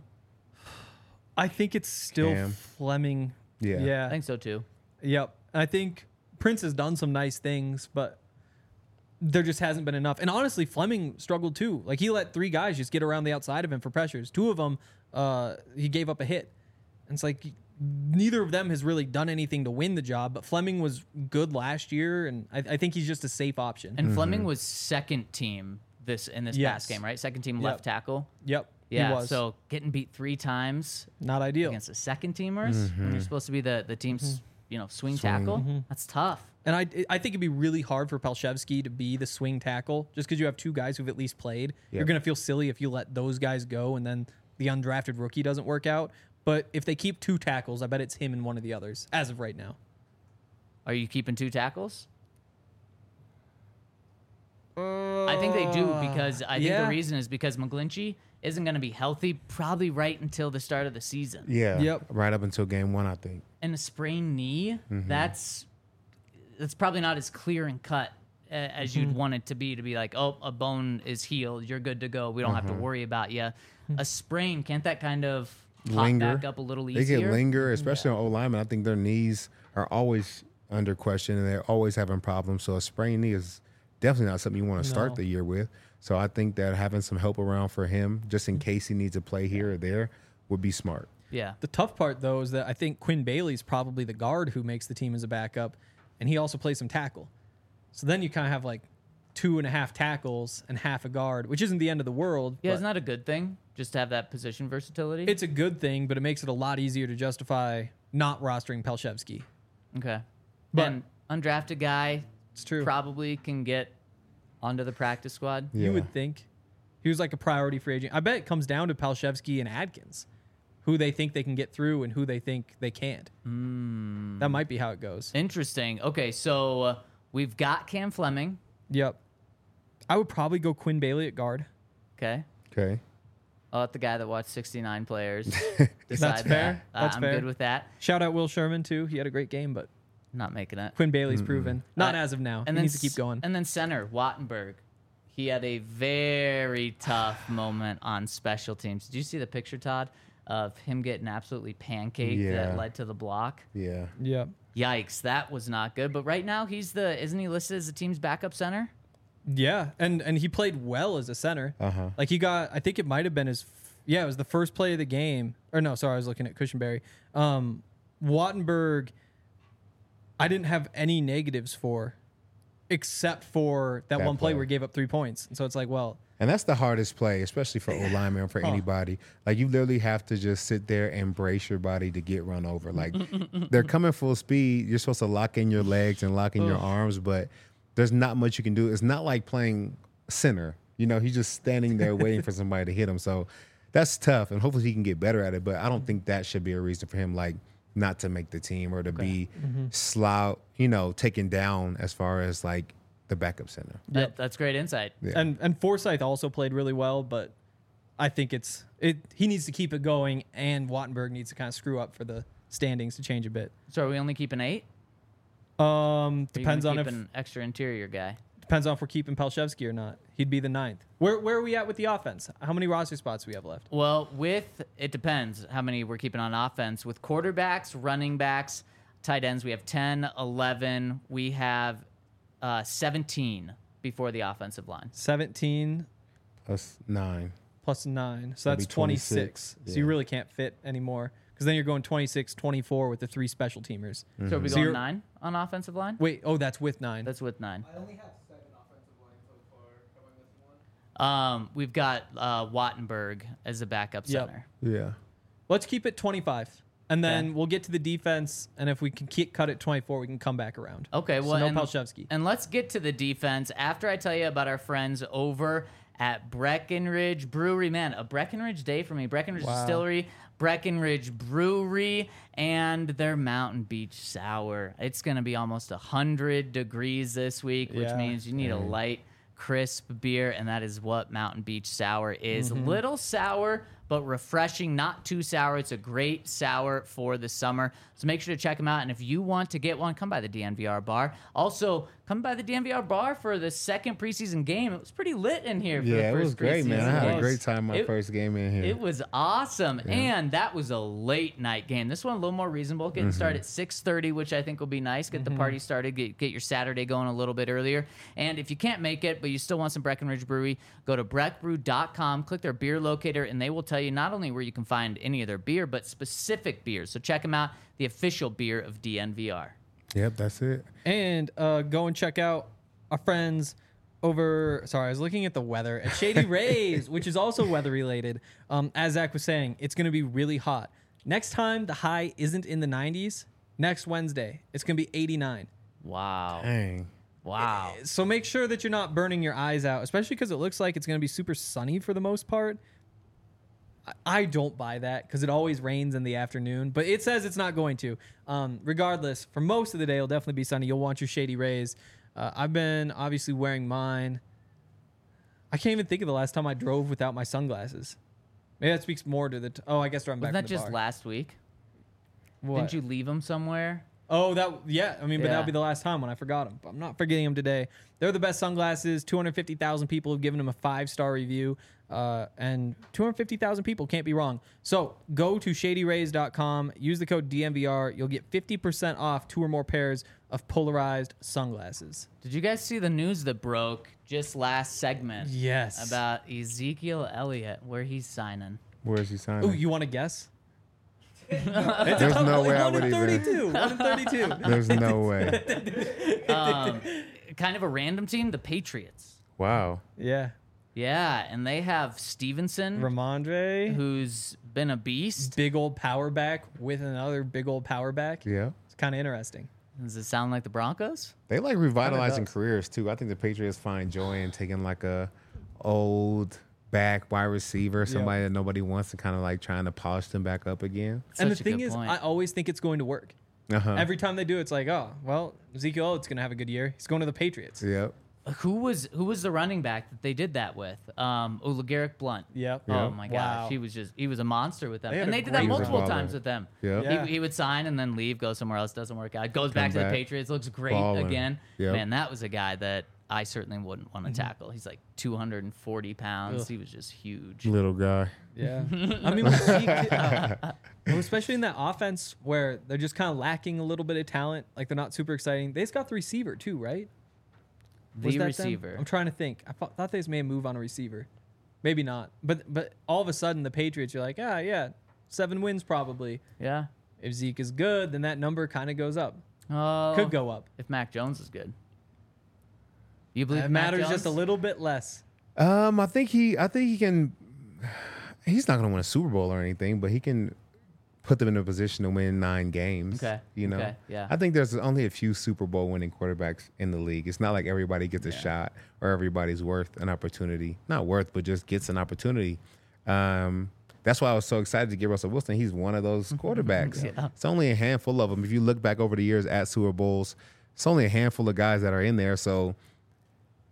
I think it's still Cam. Fleming. Yeah. Yeah. I think so too. Yep. I think Prince has done some nice things, but there just hasn't been enough. And honestly, Fleming struggled too. Like, he let three guys just get around the outside of him for pressures. Two of them, uh, he gave up a hit. And it's like neither of them has really done anything to win the job. But Fleming was good last year, and I, I think he's just a safe option. And Fleming was second team this in this Yes. past game, right? Second team Yep. left tackle. Yep. Yeah. He was. So getting beat three times Not ideal. against the second teamers when you're supposed to be the the team's you know swing, tackle. That's tough. And I, I think it'd be really hard for Palshevsky to be the swing tackle just because you have two guys who've at least played. You're Yep. going to feel silly if you let those guys go and then the undrafted rookie doesn't work out. But if they keep two tackles, I bet it's him and one of the others as of right now. Are you keeping two tackles? I think they do because I think yeah. the reason is because McGlinchey isn't going to be healthy probably right until the start of the season. Yeah. Yep. Right up until game one, I think. And a sprained knee, Mm-hmm. that's that's probably not as clear and cut uh, as you'd want it to be. To be like, oh, a bone is healed, you're good to go. We don't have to worry about you. A sprain, can't that kind of pop Linger. back up a little They easier? can linger, especially on O linemen. I think their knees are always under question and they're always having problems. So a sprained knee is definitely not something you want to start No. the year with. So I think that having some help around for him, just in case he needs to play here or there, would be smart. Yeah. The tough part, though, is that I think Quinn Bailey's probably the guard who makes the team as a backup, and he also plays some tackle. So then you kind of have like two and a half tackles and half a guard, which isn't the end of the world. Yeah, but isn't that a good thing? Just to have that position versatility? it's a good thing, but it makes it a lot easier to justify not rostering Palshevsky. okay. But- Then undrafted guy It's true. probably can get onto the practice squad. Yeah. You would think. He was like a priority free agent. I bet it comes down to Palshevsky and Adkins, who they think they can get through and who they think they can't. Hmm. That might be how it goes. Interesting. Okay, so uh, we've got Cam Fleming. Yep. I would probably go Quinn Bailey at guard. Okay. Okay. I'll let the guy that watched sixty-nine players decide That's fair. that. Uh, That's I'm fair. good with that. Shout out Will Sherman, too. He had a great game, but Not making it. Quinn Bailey's proven. Not Uh, as of now. And he then needs to keep s- going. And then center Wattenberg. He had a very tough moment on special teams. Did you see the picture, Todd, of him getting absolutely pancaked Yeah. that led to the block? Yeah. Yep. Yikes, that was not good. But right now he's the isn't he listed as the team's backup center? Yeah, and and he played well as a center. Uh-huh. Like he got, I think it might have been his, f- yeah, it was the first play of the game. Or no, sorry, I was looking at Cushenberry. Um, Wattenberg, I didn't have any negatives for, except for that, That one play play. where he gave up three points. And so it's like, well, And that's the hardest play, especially for O lineman or for anybody. Like you literally have to just sit there and brace your body to get run over. Like they're coming full speed. You're supposed to lock in your legs and lock in your arms, but there's not much you can do. It's not like playing center. You know, he's just standing there waiting for somebody to hit him. So that's tough, and hopefully he can get better at it. But I don't think that should be a reason for him, like, not to make the team or to be slow, you know, taken down as far as like the backup center. That, that's great insight. Yeah. And and Forsyth also played really well, but I think it's it. He needs to keep it going, and Wattenberg needs to kind of screw up for the standings to change a bit. So are we only keeping eight? Um, Or you depends gonna on keep if an extra interior guy. depends on if we're keeping Palshevsky or not. He'd be the ninth. Where where are we at with the offense? How many roster spots do we have left? Well, with it depends how many we're keeping on offense. With quarterbacks, running backs, tight ends, we have ten, eleven. We have uh, seventeen before the offensive line. Seventeen Plus nine. plus nine, so That'd that's be twenty-six. twenty-six, So you yeah. really can't fit anymore because then you're going twenty-six, twenty-four with the three special teamers. So are we So going you're- nine on offensive line? Wait, oh, that's with nine. That's with nine. I only have seven offensive line so far. Am I missing one? Um, we've got uh, Wattenberg as a backup Yep. center. Yeah. Let's keep it twenty-five, and then Okay. we'll get to the defense. And if we can keep, cut it twenty-four, we can come back around. Okay, So well, no and, Palshevsky. and let's get to the defense after I tell you about our friends over at Breckenridge Brewery. Man, a Breckenridge day for me. Breckenridge Wow. Distillery, Breckenridge Brewery, and their Mountain Beach Sour. It's going to be almost one hundred degrees this week, which Yeah. means you need a light, crisp beer, and that is what Mountain Beach Sour is. Mm-hmm. Little sour, but refreshing, not too sour. It's a great sour for the summer. So make sure to check them out. And if you want to get one, come by the D N V R bar. Also, come by the D N V R bar for the second preseason game. It was pretty lit in here for Yeah, the it first was great, man. I preseason had game. a great time my It- first game in here. It was awesome, and that was a late night game. This one a little more reasonable, getting Mm-hmm. started at six thirty, which I think will be nice. Get the party started, get, get your Saturday going a little bit earlier. And if you can't make it, but you still want some Breckenridge Brewery, go to breck brew dot com, click their beer locator, and they will tell you not only where you can find any of their beer, but specific beers. So check them out, the official beer of D N V R. Yep, that's it. And uh, go and check out our friends over. Sorry, I was looking at the weather at Shady Rays, which is also weather related. Um, as Zach was saying, it's going to be really hot. Next time the high isn't in the nineties, next Wednesday, it's going to be eighty-nine. Wow. Dang. Wow. So make sure that you're not burning your eyes out, especially because it looks like it's going to be super sunny for the most part. I- I don't buy that because it always rains in the afternoon, but it says it's not going to. Um, regardless, for most of the day, it'll definitely be sunny. You'll want your Shady Rays. Uh, I've been obviously wearing mine. I can't even think of the last time I drove without my sunglasses. Maybe that speaks more to the. T- oh, I guess I'm back Wasn't that from the just bar. last week? What? Didn't you leave them somewhere? Oh, that yeah. I mean, but Yeah. that'll be the last time when I forgot them. But I'm not forgetting them today. They're the best sunglasses. two hundred fifty thousand people have given them a five star review, uh, and two hundred fifty thousand people can't be wrong. So go to shady rays dot com. Use the code D N V R. You'll get fifty percent off two or more pairs of polarized sunglasses. Did you guys see the news that broke just last segment? Yes. About Ezekiel Elliott, where he's signing. Where is he signing? Oh, you want to guess? There's no way I one would in even. thirty-two. One in thirty-two. There's no way. Um, kind of a random team, the Patriots. Wow. Yeah. Yeah, and they have Stevenson, Ramondre, who's been a beast. big old power back with another big old power back. Yeah. It's kind of interesting. Does it sound like the Broncos? They like revitalizing does. careers too. I think the Patriots find joy in taking like a old back wide receiver, somebody that nobody wants, and kind of like trying to polish them back up again. And the Such a thing good is, point. I always think it's going to work. Uh-huh. Every time they do, it's like, oh, well, Ezekiel Elliott's going to have a good year. He's going to the Patriots. Yep. Who was who was the running back that they did that with? Um, oh, LeGarrette Blunt. Yep. Oh Yep. my gosh, Wow. he was just he was a monster with them, They had and a they did that great multiple run. times with them. Yep. Yeah. He, he would sign and then leave, go somewhere else, doesn't work out. Goes back to back. the Patriots, looks great Ballin'. again. Yep. Man, that was a guy that I certainly wouldn't want to tackle. He's like two hundred forty pounds. Ugh. He was just huge. Little guy. Yeah. I mean, with Zeke, uh, well, especially in that offense where they're just kind of lacking a little bit of talent, like they're not super exciting. They just got the receiver, too, right? Was The that them? receiver. I'm trying to think. I thought, thought they just made a move on a receiver. Maybe not. But but all of a sudden, the Patriots, you're like, ah, yeah, seven wins probably. Yeah. If Zeke is good, then that number kind of goes up. Oh, Could go up. if Mac Jones is good. You believe It Mac matters Jones? just a little bit less. Um, I think he. I think he can. He's not going to win a Super Bowl or anything, but he can put them in a position to win nine games. Okay, You know. okay, yeah. I think there's only a few Super Bowl winning quarterbacks in the league. It's not like everybody gets a shot or everybody's worth an opportunity. Not worth, but just gets an opportunity. Um, that's why I was so excited to get Russell Wilson. He's one of those quarterbacks. Yeah. It's only a handful of them. If you look back over the years at Super Bowls, it's only a handful of guys that are in there. So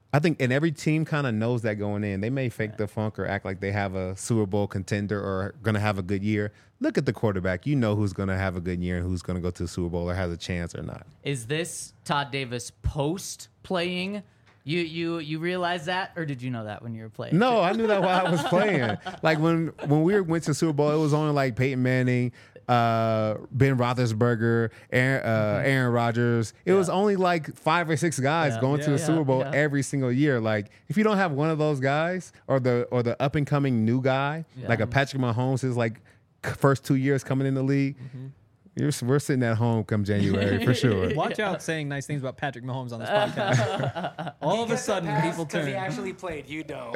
I think, and every team kind of knows that going in. They may fake the funk or act like they have a Super Bowl contender or going to have a good year. Look at the quarterback. You know who's going to have a good year and who's going to go to the Super Bowl or has a chance or not. Is this Todd Davis post playing? You you you realize that, or did you know that when you were playing? No, I knew that while I was playing. Like when when we went to the Super Bowl, it was only like Peyton Manning, uh, Ben Roethlisberger, Aaron, uh, Aaron Rodgers. It was only like five or six guys Yeah. going to Yeah, the yeah, Super Bowl yeah. every single year. Like if you don't have one of those guys or the or the up and coming new guy, like a Patrick Mahomes, is like first two years coming in the league. You're, we're sitting at home come January for sure. Watch out saying nice things about Patrick Mahomes on this podcast. All of a sudden, people because he turn. actually played. You don't.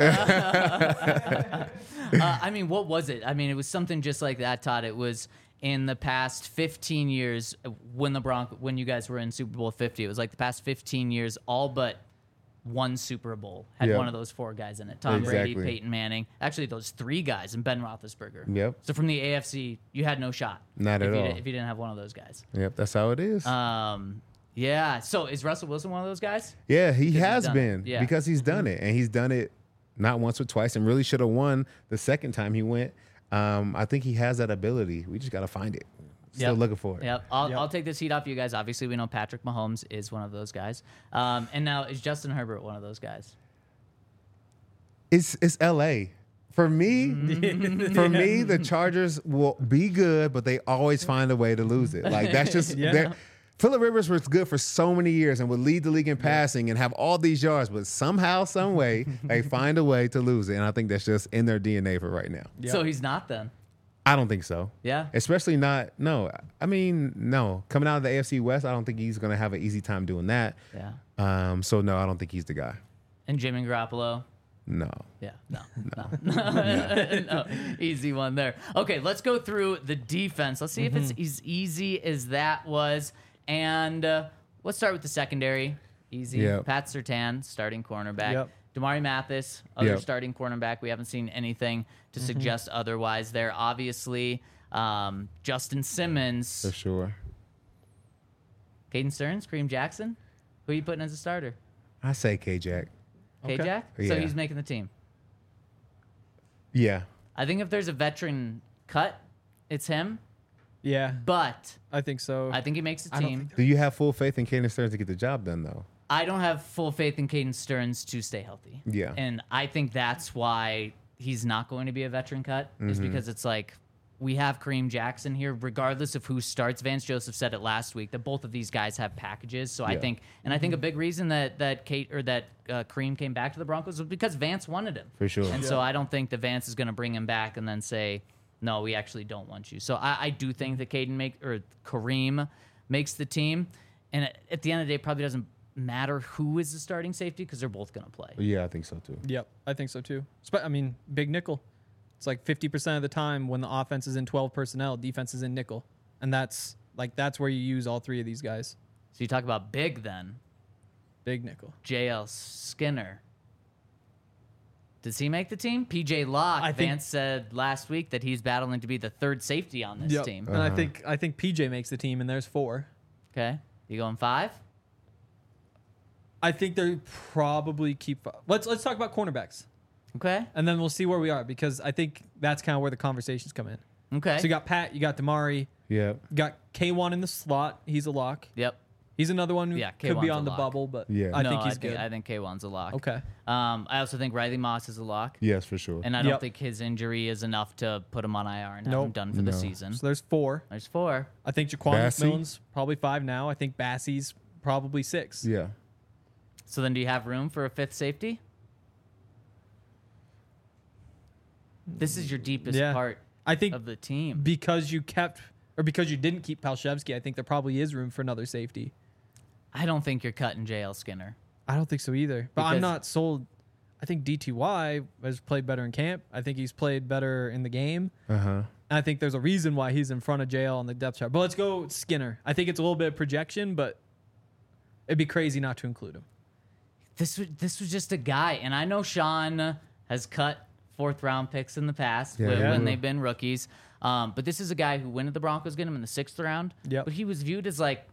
Uh, I mean, what was it? I mean, it was something just like that, Todd. It was in the past fifteen years when the Bronco, when you guys were in Super Bowl fifty. It was like the past fifteen years, all but one Super Bowl had Yeah. one of those four guys in it. Tom Brady, Exactly. Peyton Manning. Actually, those three guys and Ben Roethlisberger. Yep. So from the A F C, you had no shot. Not if at you all. Did, if you didn't have one of those guys. Yep, that's how it is. Um, yeah. So is Russell Wilson one of those guys? Yeah, he he's has done been it. Yeah. because he's done it, and he's done it not once or twice, and really should have won the second time he went. Um, I think he has that ability. We just got to find it. Still Yep. looking for it. Yep. I'll, Yep. I'll take this heat off you guys. Obviously, we know Patrick Mahomes is one of those guys. Um, and now is Justin Herbert one of those guys? It's it's L A. For me, for me, the Chargers will be good, but they always find a way to lose it. Like that's just Yeah. their- Phillip Rivers was good for so many years and would lead the league in passing and have all these yards, but somehow, some way, they find a way to lose it. And I think that's just in their D N A for right now. So he's not then. I don't think so. Yeah. Especially not, no. I mean, no. Coming out of the A F C West, I don't think he's going to have an easy time doing that. Yeah. Um, so, no, I don't think he's the guy. And Jimmy Garoppolo. No. Yeah, no, no, no. Easy one there. Okay, let's go through the defense. Let's see if it's as easy as that was. And uh, let's start with the secondary. Easy. Yep. Pat Surtain, starting cornerback. Yep. Damari Mathis, other Yep. starting cornerback. We haven't seen anything to suggest otherwise there. Obviously, um, Justin Simmons, For sure. Caden Stearns, Kareem Jackson. Who are you putting as a starter? I say K-Jack. K-Jack? So Yeah. he's making the team. Yeah. I think if there's a veteran cut, it's him. Yeah, But I think so. I think he makes the I don't team. think Do you have full faith in Caden Stearns to get the job done, though? I don't have full faith in Caden Stearns to stay healthy. Yeah. And I think that's why he's not going to be a veteran cut, is Mm-hmm. because it's like we have Kareem Jackson here, regardless of who starts. Vance Joseph said it last week that both of these guys have packages. So I Yeah. think, and I think a big reason that that Kate or that uh, Kareem came back to the Broncos was because Vance wanted him. For sure. And so I don't think that Vance is going to bring him back and then say, no, we actually don't want you. So I, I do think that Caden make or Kareem makes the team. And at, at the end of the day, it probably doesn't matter who is the starting safety because they're both going to play. Yeah, I think so, too. Yep, I think so too. Spe- I mean, big nickel. It's like fifty percent of the time when the offense is in twelve personnel, defense is in nickel. And that's like that's where you use all three of these guys. So you talk about big then. Big nickel. J L Skinner. Does he make the team? P J Locke. I think- Vance said last week that he's battling to be the third safety on this team. And I think I think P J makes the team and there's four. Okay. You going five? I think they probably keep Let's let's talk about cornerbacks. Okay. And then we'll see where we are because I think that's kind of where the conversations come in. Okay. So you got Pat, you got Damari, Yeah. you got K one in the slot. He's a lock. Yep. He's another one who Yeah, could be K one's a on the lock. bubble, but Yeah. I no, think he's I think, good. I think K one's a lock. Okay. Um, I also think Riley Moss is a lock. Yes, for sure. And I don't Yep. think his injury is enough to put him on I R and have Nope. him done for the No. season. So there's four. There's four. I think Jaquan Bassey? McMillan's probably five now. I think Bassey's probably six. yeah. So then do you have room for a fifth safety? This is your deepest Yeah. part I think of the team. because you kept or because you didn't keep Palshevsky, I think there probably is room for another safety. I don't think you're cutting J L Skinner. I don't think so either. But I'm Because- not sold. I think D T Y has played better in camp. I think he's played better in the game. Uh huh. And I think there's a reason why he's in front of J L on the depth chart. But let's go Skinner. I think it's a little bit of projection, but it'd be crazy not to include him. This was this was just a guy, and I know Sean has cut fourth round picks in the past Yeah, when, yeah. when they've been rookies. Um, but this is a guy who went to the Broncos, get him in the sixth round. Yep. But he was viewed as like a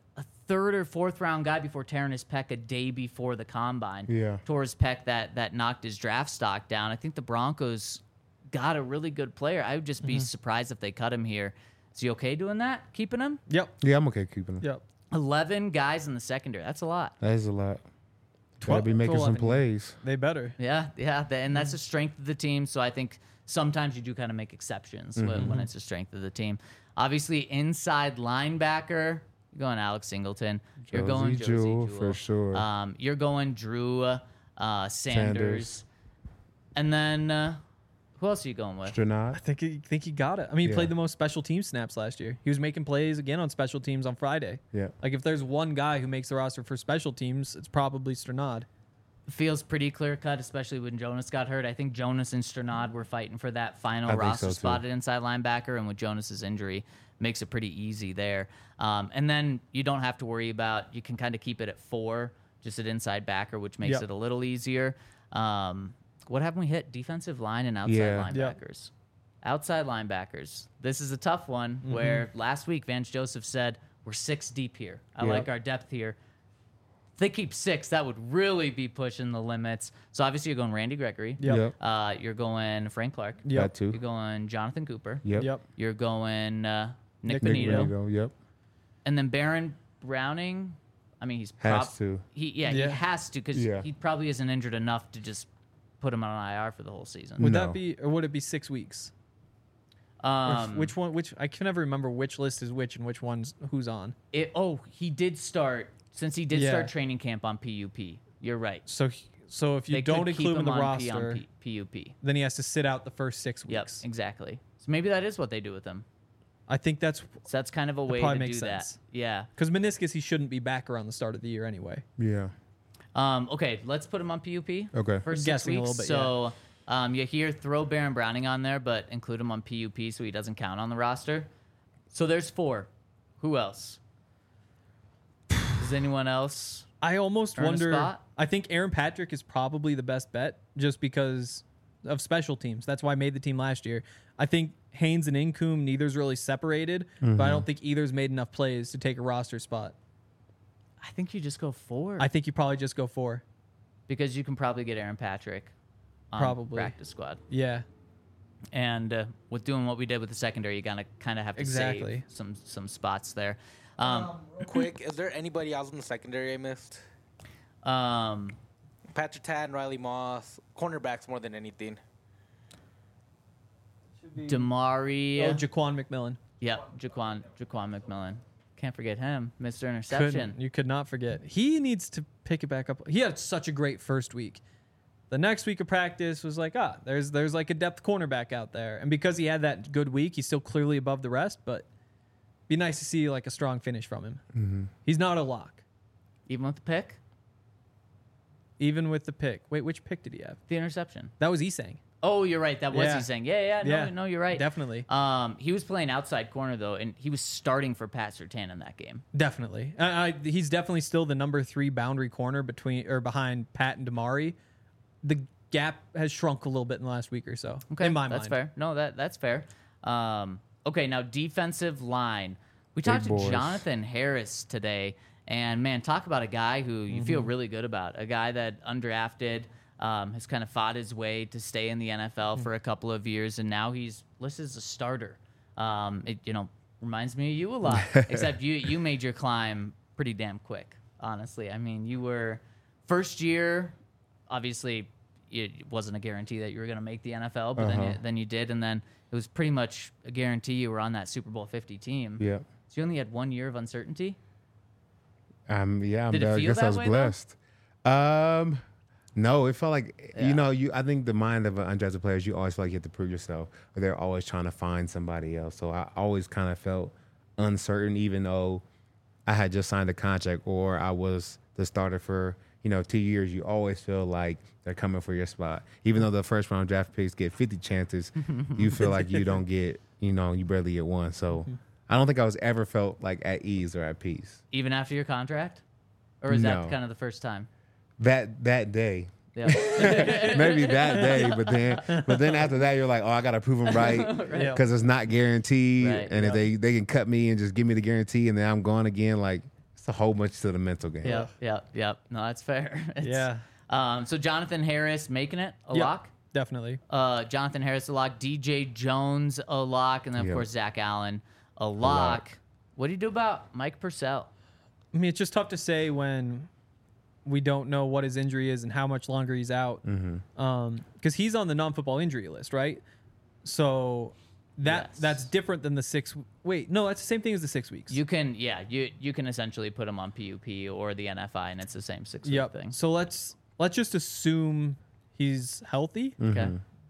third or fourth round guy before tearing his pec a day before the combine. Yeah. Tore his pec that that knocked his draft stock down. I think the Broncos got a really good player. I would just be surprised if they cut him here. Is he okay doing that? Keeping him? Yep. Yeah, I'm okay keeping him. Yep. eleven guys in the secondary. That's a lot. That is a lot. Twelve- Gotta be making some eleven. plays. They better. Yeah, yeah, th- and that's the strength of the team. So I think sometimes you do kind of make exceptions when, when it's the strength of the team. Obviously, inside linebacker, you're going Alex Singleton. You're going Josie Josie Jewell, Jewell. for sure. Um, you're going Drew uh, Sanders. Sanders. And then uh, who else are you going with? Stranad. I think he think he got it. I mean, he Yeah. played the most special team snaps last year. He was making plays again on special teams on Friday. Yeah. Like if there's one guy who makes the roster for special teams, it's probably Stranad. Feels pretty clear cut, especially when Jonas got hurt. I think Jonas and Stranad were fighting for that final I think roster so, too. spot at inside linebacker, and with Jonas's injury, makes it pretty easy there. Um, and then you don't have to worry about. You can kind of keep it at four, just at inside backer, which makes Yep. it a little easier. Um, what haven't we hit? Defensive line and outside Yeah. Yep. linebackers. Outside linebackers. This is a tough one. Mm-hmm. Where last week Vance Joseph said we're six deep here. I Yep. like our depth here. If they keep six, that would really be pushing the limits. So obviously you're going Randy Gregory. Yep. Yep. Uh, you're going Frank Clark. Yep. That too. You're going Jonathan Cooper. Yep. Yep. You're going uh, Nick, Nick Nick Benito. Benito. Yep. And then Baron Browning. I mean, he's Has prob- to. He yeah, Yeah. he has to because Yeah. he probably isn't injured enough to just put him on I R for the whole season. Would No. that be, or would it be six weeks? Or Um, which one? Which I can never remember which list is which and which one's who's on. it, oh, he did start since he did Yeah. start training camp on P U P. You're right. So, he- so if you They don't could keep include him in him the on P- on roster, P- PUP. then he has to sit out the first six Yep, weeks. exactly. So maybe that is what they do with him. I think that's So that's kind of a way probably to do makes that. sense. Yeah. because meniscus he shouldn't be back around the start of the year anyway. Yeah. Um, okay, let's put him on P U P. Okay. For six Guessing a weeks. little bit, so um, you hear throw Baron Browning on there, but include him on P U P so he doesn't count on the roster. So there's four. Who else? Does anyone else? I almost Earn a wonder. spot? I think Aaron Patrick is probably the best bet just because of special teams. That's why I made the team last year. I think Haynes and Incoom, neither's really separated, but I don't think either's made enough plays to take a roster spot. I think you just go four I think you probably just go four. because you can probably get Aaron Patrick on Probably. practice squad. Yeah. And uh, with doing what we did with the secondary, you gotta kind of have to Exactly. save some some spots there. Um, Real quick, is there anybody else in the secondary I missed? um, Patrick Tan, Riley Moss, cornerbacks more than anything. Damari. Oh, Jaquan McMillan. Yep, Jaquan Jaquan McMillan. Can't forget him, Mister Interception. Couldn't, you could not forget. He needs to pick it back up. He had such a great first week. The next week of practice was like, ah, there's there's like a depth cornerback out there. And because he had that good week, he's still clearly above the rest, but be nice to see like a strong finish from him. Mm-hmm. He's not a lock, Even with the pick, even with the pick. Wait, which pick did he have? the interception. That was Esang. Oh, you're right. That was Yeah. he saying. Yeah, yeah. No, Yeah, no, you're right. definitely. Um, he was playing outside corner though, and he was starting for Pat Surtain in that game. Definitely. I, I, he's definitely still the number three boundary corner between or behind Pat and Damari. The gap has shrunk a little bit in the last week or so. Okay, in my that's mind. fair. No, that that's fair. Um, okay, now defensive line. We talked to boys. Jonathan Harris today, and man, talk about a guy who you Mm-hmm. feel really good about. A guy that undrafted, um, has kind of fought his way to stay in the N F L Mm. for a couple of years, and now he's listed as a starter. Um, it you know reminds me of you a lot, except you you made your climb pretty damn quick. Honestly, I mean, you were first year, obviously. It wasn't a guarantee that you were going to make the N F L, but then, Uh-huh. you, then you did, and then it was pretty much a guarantee you were on that Super Bowl fifty team. Yeah. So you only had one year of uncertainty. Um. Yeah. I'm, Did it I feel guess that I was way, though? blessed. Um. No, it felt like Yeah. you know. You. I think the mind of an undrafted player is you always feel like you have to prove yourself, or they're always trying to find somebody else. So I always kind of felt uncertain, even though I had just signed a contract or I was the starter for you know two years. You always feel like they're coming for your spot, even though the first round draft picks get fifty chances. You feel like you don't get. You know, you barely get one. So I don't think I was ever felt like at ease or at peace. Even after your contract? Or is that No. kind of the first time? That that day. Yeah. Maybe that day, but then, but then after that, you're like, oh, I gotta prove them right Yeah. because it's not guaranteed, Right, and yeah. if they they can cut me and just give me the guarantee, and then I'm gone again, like it's a whole bunch to the mental game. Yep, yep, yep. No, that's fair. It's- Yeah. Um, so Jonathan Harris making it a Yep, lock. definitely. Uh, Jonathan Harris a lock. D J Jones a lock, and then of Yep. course Zach Allen a lock. lock. What do you do about Mike Purcell? I mean, it's just tough to say when we don't know what his injury is and how much longer he's out. Mm-hmm. Um, because he's on the non-football injury list, right? So that Yes. that's different than the six. Wait, no, that's the same thing as the six weeks. You can, yeah, you you can essentially put him on P U P or the N F I, and it's the same six week Yep. thing. So let's let's just assume he's healthy. Okay.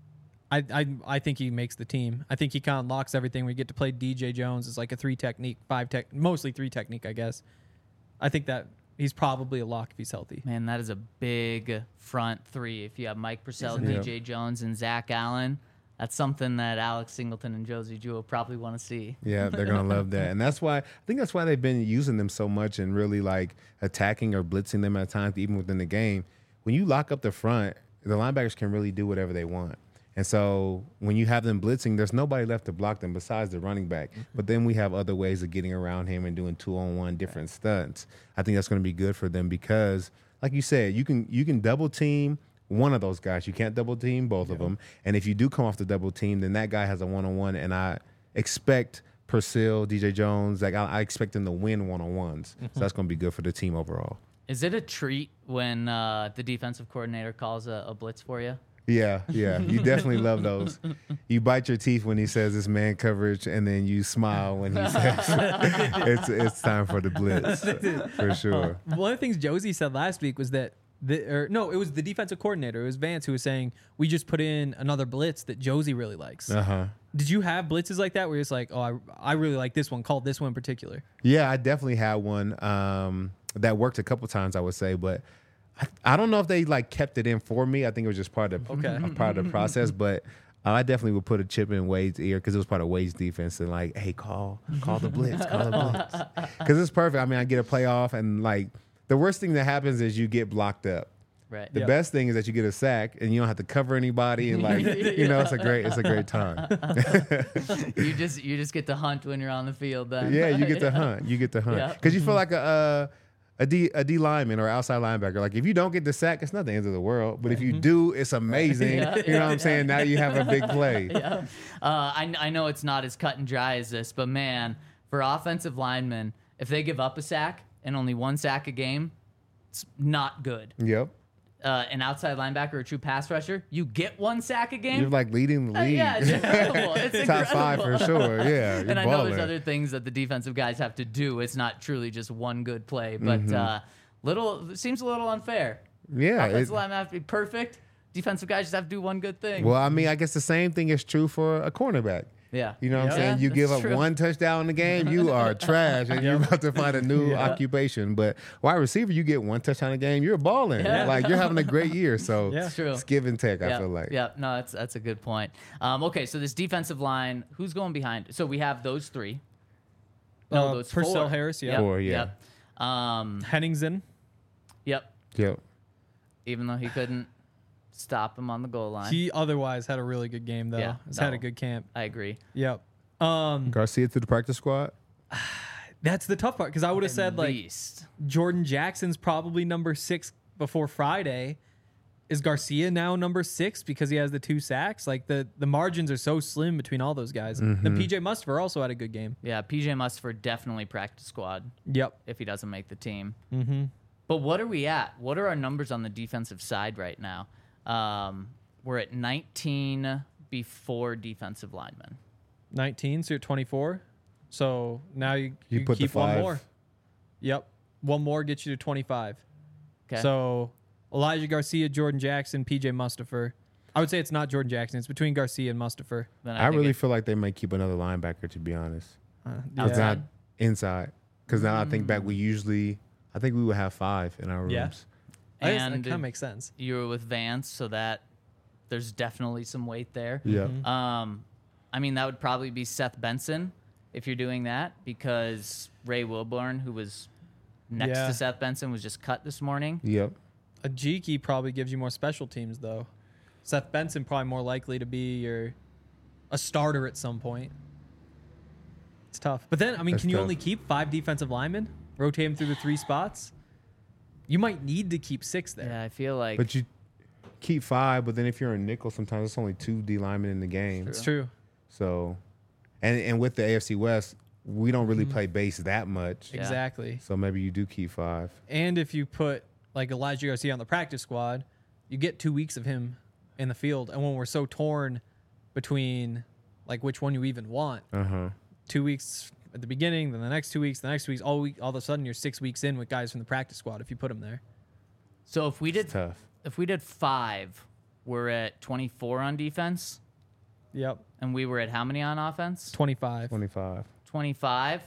I, I I think he makes the team. I think he kind of unlocks everything. We get to play D J Jones as like a three technique, five tech, mostly three technique, I guess. I think that he's probably a lock if he's healthy. Man, that is a big front three. If you have Mike Purcell, Isn't it? D J Jones, and Zach Allen, that's something that Alex Singleton and Josie Jewell probably want to see. Yeah, they're gonna love that, and that's why I think that's why they've been using them so much and really like attacking or blitzing them at times, even within the game. When you lock up the front, the linebackers can really do whatever they want. And so when you have them blitzing, there's nobody left to block them besides the running back. But then we have other ways of getting around him and doing two-on-one different stunts. I think that's going to be good for them because, like you said, you can you can double team one of those guys. You can't double team both of them. And if you do come off the double team, then that guy has a one-on-one. And I expect Purcell, D J Jones, like I, I expect them to win one-on-ones. So that's going to be good for the team overall. Is it a treat when uh, the defensive coordinator calls a, a blitz for you? Yeah, yeah. You definitely love those. You bite your teeth when he says it's man coverage, and then you smile when he says it's it's time for the blitz, for sure. One of the things Josie said last week was that the or no, it was the defensive coordinator. It was Vance who was saying we just put in another blitz that Josie really likes. Uh-huh. Did you have blitzes like that where it's like, oh, I, I really like this one, called this one in particular? Yeah, I definitely had one um, that worked a couple times, I would say, but I, I don't know if they like kept it in for me. I think it was just part of Okay. a part of the process, but I definitely would put a chip in Wade's ear because it was part of Wade's defense and like, hey, call call the blitz, call the blitz, because it's perfect. I mean, I get a playoff, and like the worst thing that happens is you get blocked up. Right. The Yep. best thing is that you get a sack and you don't have to cover anybody, and like you know, it's a great it's a great time. you just you just get to hunt when you're on the field. Then. Yeah, you get to hunt. You get to hunt Yeah. because you feel like a. Uh, A D, a D lineman or outside linebacker. Like if you don't get the sack, it's not the end of the world. But if you do, it's amazing. Yeah, you know what I'm saying? Now you have a big play. Yeah. Uh, I, I know it's not as cut and dry as this, but man, for offensive linemen, if they give up a sack and only one sack a game, it's not good. Yep. Uh, an outside linebacker or a true pass rusher, you get one sack a game. You're like leading the Uh, league. yeah, it's incredible. It's Top five incredible. for sure. Yeah. You're And I know there's balling. other things that the defensive guys have to do. It's not truly just one good play, but Mm-hmm. uh, little it seems a little unfair. Yeah. Offensive it- linemen have to be perfect. Defensive guys just have to do one good thing. well, I mean, I guess the same thing is true for a cornerback. yeah. You know what Yeah, I'm saying? You that's give up true. one touchdown in the game, you are trash, and you're about to find a new occupation. But wide receiver, you get one touchdown a game, you're balling. Yeah. Like you're having a great year. So Yeah. It's true. it's give and take. I Yeah, feel like. yeah, no, that's that's a good point. Um, okay, so this defensive line, who's going behind? So we have those three. No, Uh, those Purcell, four. Harris, yeah. Yep, Four, yeah. Yep. Um, Henningsen. yep. Yep. Even though he couldn't stop him on the goal line, He otherwise had a really good game though. Yeah, He's had no. a good camp. I agree. Yep. Um, Garcia to the practice squad. that's the tough part because I would have said At like least. Jordan Jackson's probably number six before Friday. Is Garcia now number six because he has the two sacks? Like the the margins are so slim between all those guys. Then P J Mustipher also had a good game. Yeah, P J Mustipher definitely practice squad Yep. if he doesn't make the team. Mm-hmm. But what are we at? What are our numbers on the defensive side right now? Um, we're at nineteen before defensive linemen. nineteen, so you're twenty-four. So now you, You you put the keep one five. more. Yep. One more gets you to twenty-five. Okay. So Elijah Garcia, Jordan Jackson, P J Mustipher. I would say it's not Jordan Jackson. It's between Garcia and Mustipher. Then I, think really it- feel like they may keep another linebacker, to be honest. Uh, It's Outside? not inside. Because now I think back, we usually, I think we would have five in our rooms. Yeah. I guess that and kind of makes sense. you were with Vance, so that there's definitely some weight there. Yeah. Um, I mean, that would probably be Seth Benson if you're doing that because Ray Wilborn, who was next Yeah. to Seth Benson, was just cut this morning. Yep. Ajiki probably gives you more special teams, though. Seth Benson probably more likely to be your a starter at some point. It's tough. But then, I mean, That's can you tough. only keep five defensive linemen? rotate him through the three spots. You might need to keep six there. Yeah, I feel like But you keep five, but then if you're a nickel, sometimes it's only two D linemen in the game. It's true. So, and and with the A F C West, we don't really play base that much. Yeah. Exactly. So maybe you do keep five. And if you put like Elijah Garcia on the practice squad, you get two weeks of him in the field. And when we're so torn between like which one you even want, Uh huh. two weeks at the beginning, then the next two weeks, the next weeks, all week, all of a sudden you're six weeks in with guys from the practice squad if you put them there. so if we did Tough. if we did five, we're at twenty-four on defense, Yep. and we were at how many on offense? twenty-five. Twenty-five. twenty-five.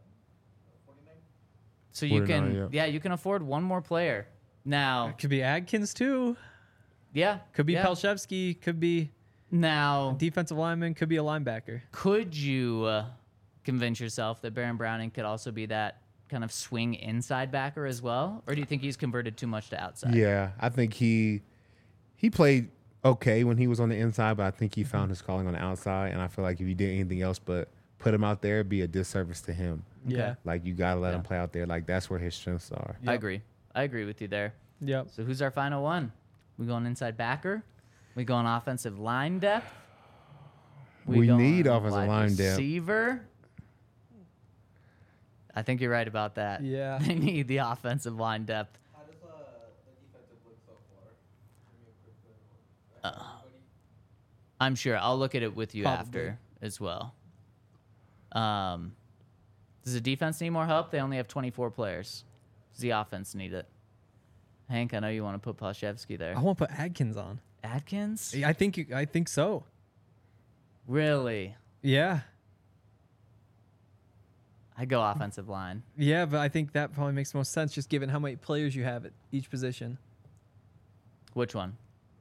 So you forty-nine, can, yeah. yeah, you can afford one more player. Now, Could be Adkins too. yeah, Could be yeah. Palshevsky. Could be Now, defensive lineman. Could be a linebacker. could you uh, convince yourself that Baron Browning could also be that kind of swing inside backer as well, or do you think he's converted too much to outside? Yeah, I think he he played okay when he was on the inside, but I think he found his calling on the outside. And I feel like if you did anything else but put him out there, it'd be a disservice to him. Yeah. Like you gotta let Yeah. him play out there. Like that's where his strengths are. I agree. I agree with you there. Yep. So who's our final one? We going inside backer? We going offensive line depth? We going need offensive wide line depth. Receiver? I think you're right about that. Yeah. They need the offensive line depth. How does uh, the defensive look so far? Give me a quick look. Uh, I'm sure. I'll look at it with you Probably. after as well. Um, does the defense need more help? They only have twenty-four players. Does the offense need it? Hank, I know you want to put Palshevsky there. I want to put Adkins on. Adkins? I think. You, I think so. Really? Yeah. I go offensive line. Yeah, but I think that probably makes the most sense just given how many players you have at each position. Which one?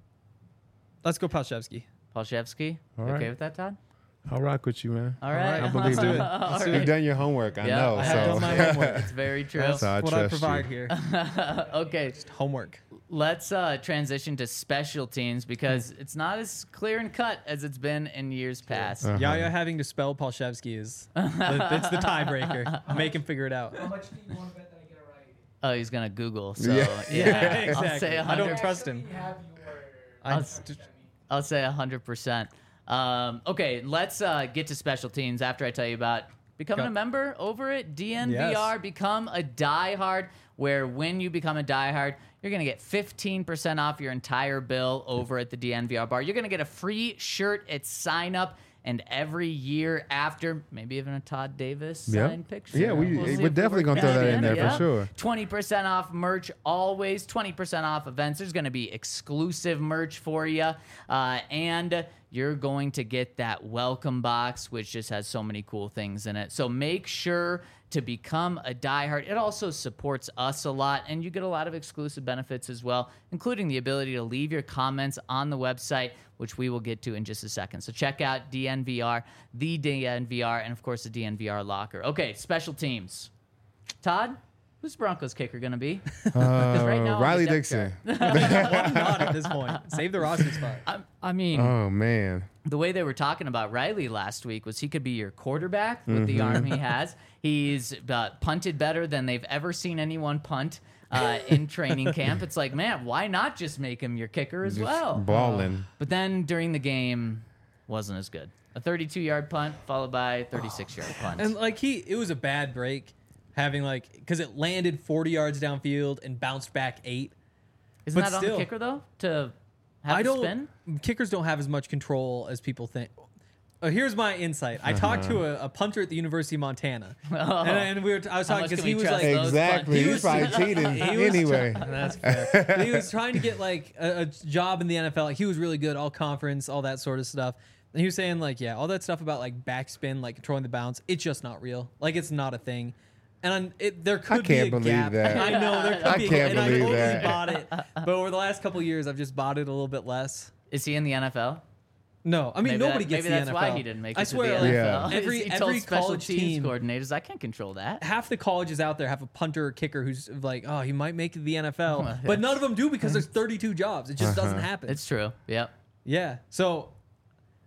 Let's go Palshevsky. Palshevsky? All Okay right. with that, Todd? I'll rock with you, man. All right. I believe Let's do you. it. All Let's do You've right. done your homework. I Yeah, know. I so have done my homework. It's very true. That's So I what I trust provide you. here. Okay, Homework. let's uh, transition to special teams because it's not as clear and cut as it's been in years past. Uh-huh. Yaya having to spell Palshevsky is the, it's the tiebreaker. Make him figure it out. How much do you want to bet that I get it right? Oh, he's gonna Google. So Yeah. yeah, I'll say a I don't hundred. trust him. You have your. I, I'll, I'll say a hundred percent. Um, okay, let's uh, get to special teams after I tell you about becoming Go. a member over at D N V R. Yes. Become a diehard, where when you become a diehard, you're going to get fifteen percent off your entire bill over at the D N V R bar. You're going to get a free shirt at sign up. And every year after, maybe even a Todd Davis Yep. signed picture. Yeah, we- see we're if we definitely work gonna throw that in there for yeah. sure. twenty percent off merch always, twenty percent off events. There's going to be exclusive merch for you. Uh, and you're going to get that welcome box, which just has so many cool things in it. So make sure to become a diehard. It also supports us a lot, and you get a lot of exclusive benefits as well, including the ability to leave your comments on the website, which we will get to in just a second. So check out D N V R, the D N V R, and of course the D N V R locker. Okay, special teams. Todd, who's Broncos kicker going to be? Uh, right now on the Riley depth Dixon. why not at this point? Save the roster spot. I, I mean, Oh man. the way they were talking about Riley last week was he could be your quarterback with the arm he has. He's uh, punted better than they've ever seen anyone punt uh, in training camp. It's like, man, why not just make him your kicker as well? Balling. But then during the game, wasn't as good. A thirty-two yard punt followed by a thirty-six yard punt. And like he, it was a bad break, having like because it landed forty yards downfield and bounced back eight. Isn't but that on still- the kicker though to have I the don't. spin? Kickers don't have as much control as people think. Uh, here's my insight. I talked to a, a punter at the University of Montana, Oh. and, and we were. I was How talking much because can he we was trust like, those Exactly. punts? He's probably cheating He was anyway. That's fair. But he was trying to get like a, a job in the N F L. Like, he was really good, all conference, all that sort of stuff. And he was saying like, yeah, all that stuff about like backspin, like controlling the bounce, it's just not real. Like it's not a thing. And I'm- it, there could can't be a believe gap. that. I know there could I be. a can't gap, and believe I totally that. bought it. But over the last couple of years, I've just bought it a little bit less. Is he in the N F L? No, I mean Maybe nobody that- gets maybe the that's N F L. why he didn't make it I to swear, the like, N F L. Yeah. every he every told special college teams team, coordinators, I can't control that. half the colleges out there have a punter or kicker who's like, oh, he might make the N F L, but none of them do because there's thirty-two jobs. It just doesn't happen. It's true. Yep. Yeah. So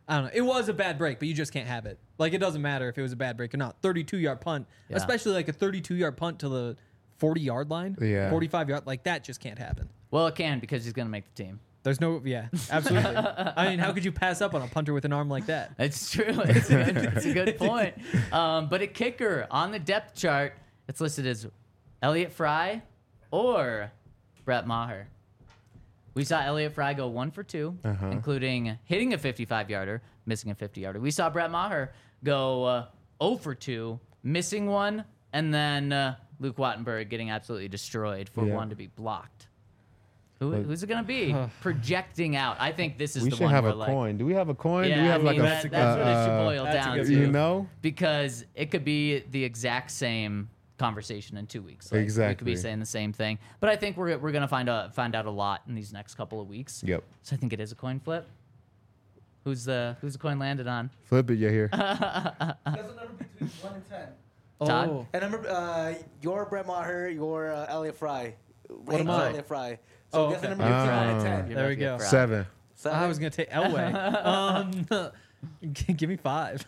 I don't know. It was a bad break, but you just can't have it. Like, it doesn't matter if it was a bad break or not. thirty-two yard punt, Yeah. especially like a thirty-two yard punt to the forty yard line, Yeah. forty-five yard, like that just can't happen. Well, it can because he's gonna make the team. There's no, yeah, absolutely. I mean, how could you pass up on a punter with an arm like that? It's true. It's a, it's a good point. Um, but a kicker on the depth chart, it's listed as Elliott Fry or Brett Maher. We saw Elliott Fry go one for two, Uh-huh. including hitting a fifty-five yarder, missing a fifty yarder. We saw Brett Maher go uh, zero for two, missing one, and then uh, Luke Wattenberg getting absolutely destroyed for Yeah. one to be blocked. Who, But- who's it going to be? Projecting out. I think this is We the should one have where a like, coin. Do we have a coin? Yeah, Do we have I like mean, a that, that's what it should uh, boil that's a down good to. you know? Because it could be the exact same conversation in two weeks. Like, we could Exactly. be saying the same thing. But I think we're we're gonna find out find out a lot in these next couple of weeks. Yep. So I think it is a coin flip. Who's the who's the coin landed on? Flip it, you here. There's a number between one and ten. Todd? Oh, And remember, uh, your Brett Maher, your uh, Elliott Fry. What am I? Elliott Fry. So Oh, guess the okay. number between Ah. one and ten. You're There we lucky go. for us. Seven. Seven? I was gonna take Elway. um, g- give me five.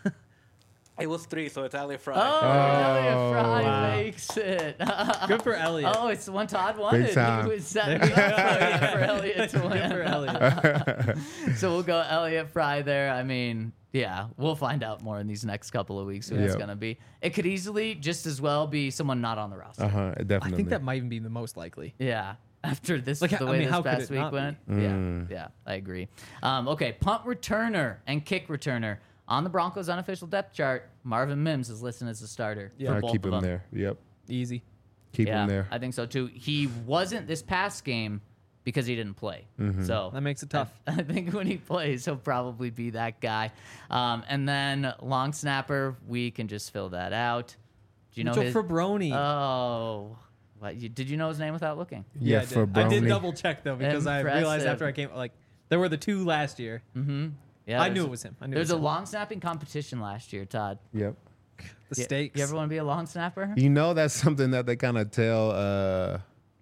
It was three, so it's Elliott Fry. Oh, Elliott Fry Wow. makes it. Good for Elliot. Oh, it's the one Todd wanted. time. He was setting me up for Elliott to Good win. for Elliot. So we'll go Elliott Fry there. I mean, yeah, we'll find out more in these next couple of weeks who it's Yep. going to be. It could easily just as well be someone not on the roster. Uh huh. I Definitely. think that might even be the most likely. Yeah. After this, Like, the I way mean, how this could past it week not went. be? Yeah, Mm. yeah, I agree. Um, okay, punt returner and kick returner. On the Broncos' unofficial depth chart, Marvin Mims is listed as the starter. Yeah. for I'll both keep of him them. there. Yep. Easy. Keep yeah, him there. I think so too. He wasn't this past game because he didn't play. Mm-hmm. So That makes it tough. I, I think when he plays, he'll probably be that guy. Um, and then long snapper, we can just fill that out. Do you know Mitchell his? Fabroni. Oh, what, you, did you know his name without looking? Yeah, I did. for I did Brownie. double check though because I realized Impressive. after I came, like, there were the two last year. Mm-hmm. Yeah, I there's- knew it was him. I knew There's it a was him. long snapping competition last year, Todd. Yep. The You- stakes. You ever want to be a long snapper? You know that's something that they kind of tell uh,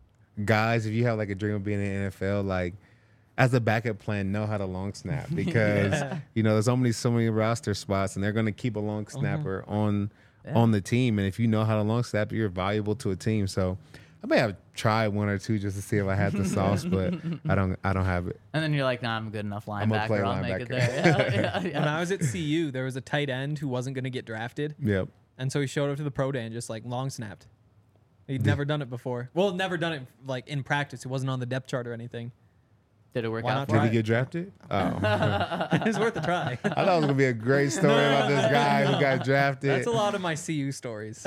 guys if you have like a dream of being in the N F L, like as a backup plan, know how to long snap because Yeah. you know there's only so many roster spots, and they're going to keep a long snapper on on the team. And if you know how to long snap, you're valuable to a team. So I may have tried one or two just to see if I had the sauce, but I don't. I don't have it. And then you're like, nah, I'm a good enough I'm gonna play linebacker. I'll make it linebacker. there. Yeah, yeah, When yeah. I was at C U, there was a tight end who wasn't going to get drafted, Yep. and so he showed up to the pro day and just like long snapped. He'd never done it before. Well, never done it like in practice. It wasn't on the depth chart or anything. Did it work Why out not for Did you? he Right. get drafted? Oh, It was worth a try. I thought it was gonna be a great story about this guy who got drafted. That's a lot of my C U stories.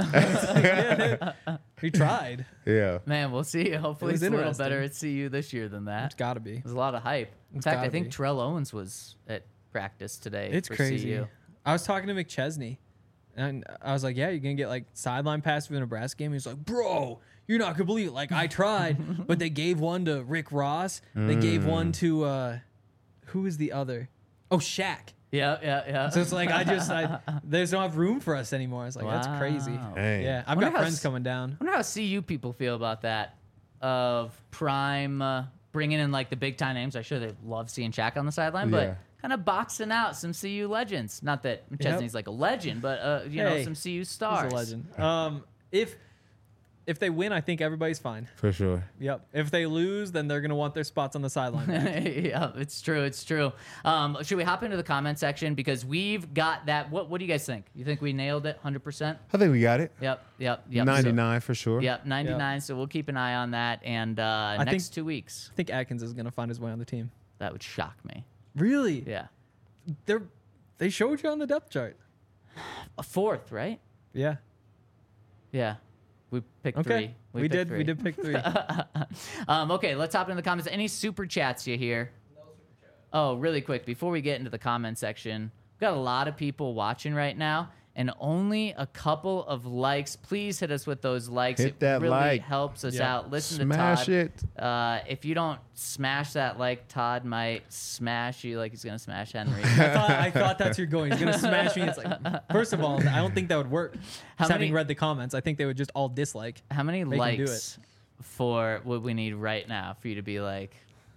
He tried. Yeah. Man, we'll see. Hopefully, was it's a little interesting. better at C U this year than that. It's got to be. There's a lot of hype. In It's fact, I gotta think be. Terrell Owens was at practice today. It's for crazy. C U. I was talking to McChesney, and I was like, "Yeah, you're gonna get like sideline pass for the Nebraska game." He was like, "Bro, you're not gonna believe it. Like I tried, but they gave one to Rick Ross. They gave one to uh, who is the other? Oh, Shaq. Yeah, yeah, yeah. So it's like I just I, there's no have room for us anymore. I was like, that's crazy. Wow. Dang. Yeah, I've Wonder got how friends s- coming down. I wonder how C U people feel about that. Of Prime uh, bringing in like the big time names. I'm sure they love seeing Shaq on the sideline, Yeah. but kind of boxing out some C U legends. Not that McChesney's like a legend, but uh, you know, Hey, some C U He's stars. a legend. Um, if if they win, I think everybody's fine. For sure. Yep. If they lose, then they're gonna want their spots on the sideline. back. Yeah, it's true. It's true. Um, should we hop into the comment section because we've got that? What What do you guys think? You think we nailed it, hundred percent? I think we got it. Yep. Yep. Yep. ninety-nine for sure. So, yep. ninety-nine. So we'll keep an eye on that. And uh, think- next two weeks, I think Atkins is gonna find his way on the team. that would shock me. Really? Yeah. They're they showed you on the depth chart. A fourth, right? Yeah. Yeah. We picked Okay. three. We, picked did. Three. We did pick three. um, okay, let's hop into the comments. Any super chats you hear? Oh, really quick before we get into the comment section, we've got a lot of people watching right now, and only a couple of likes. Please hit us with those likes. Hit it that really like. helps us Yeah. out. Listen Smash to Todd. it. Uh, if you don't smash that like, Todd might smash you like he's gonna smash Henry. I thought I thought that's where you're going. He's gonna smash me. It's like, first of all, I don't think that would work. How Just having many- read the comments, I think they would just all dislike. How many Make him do likes for what we need right now for you to be like,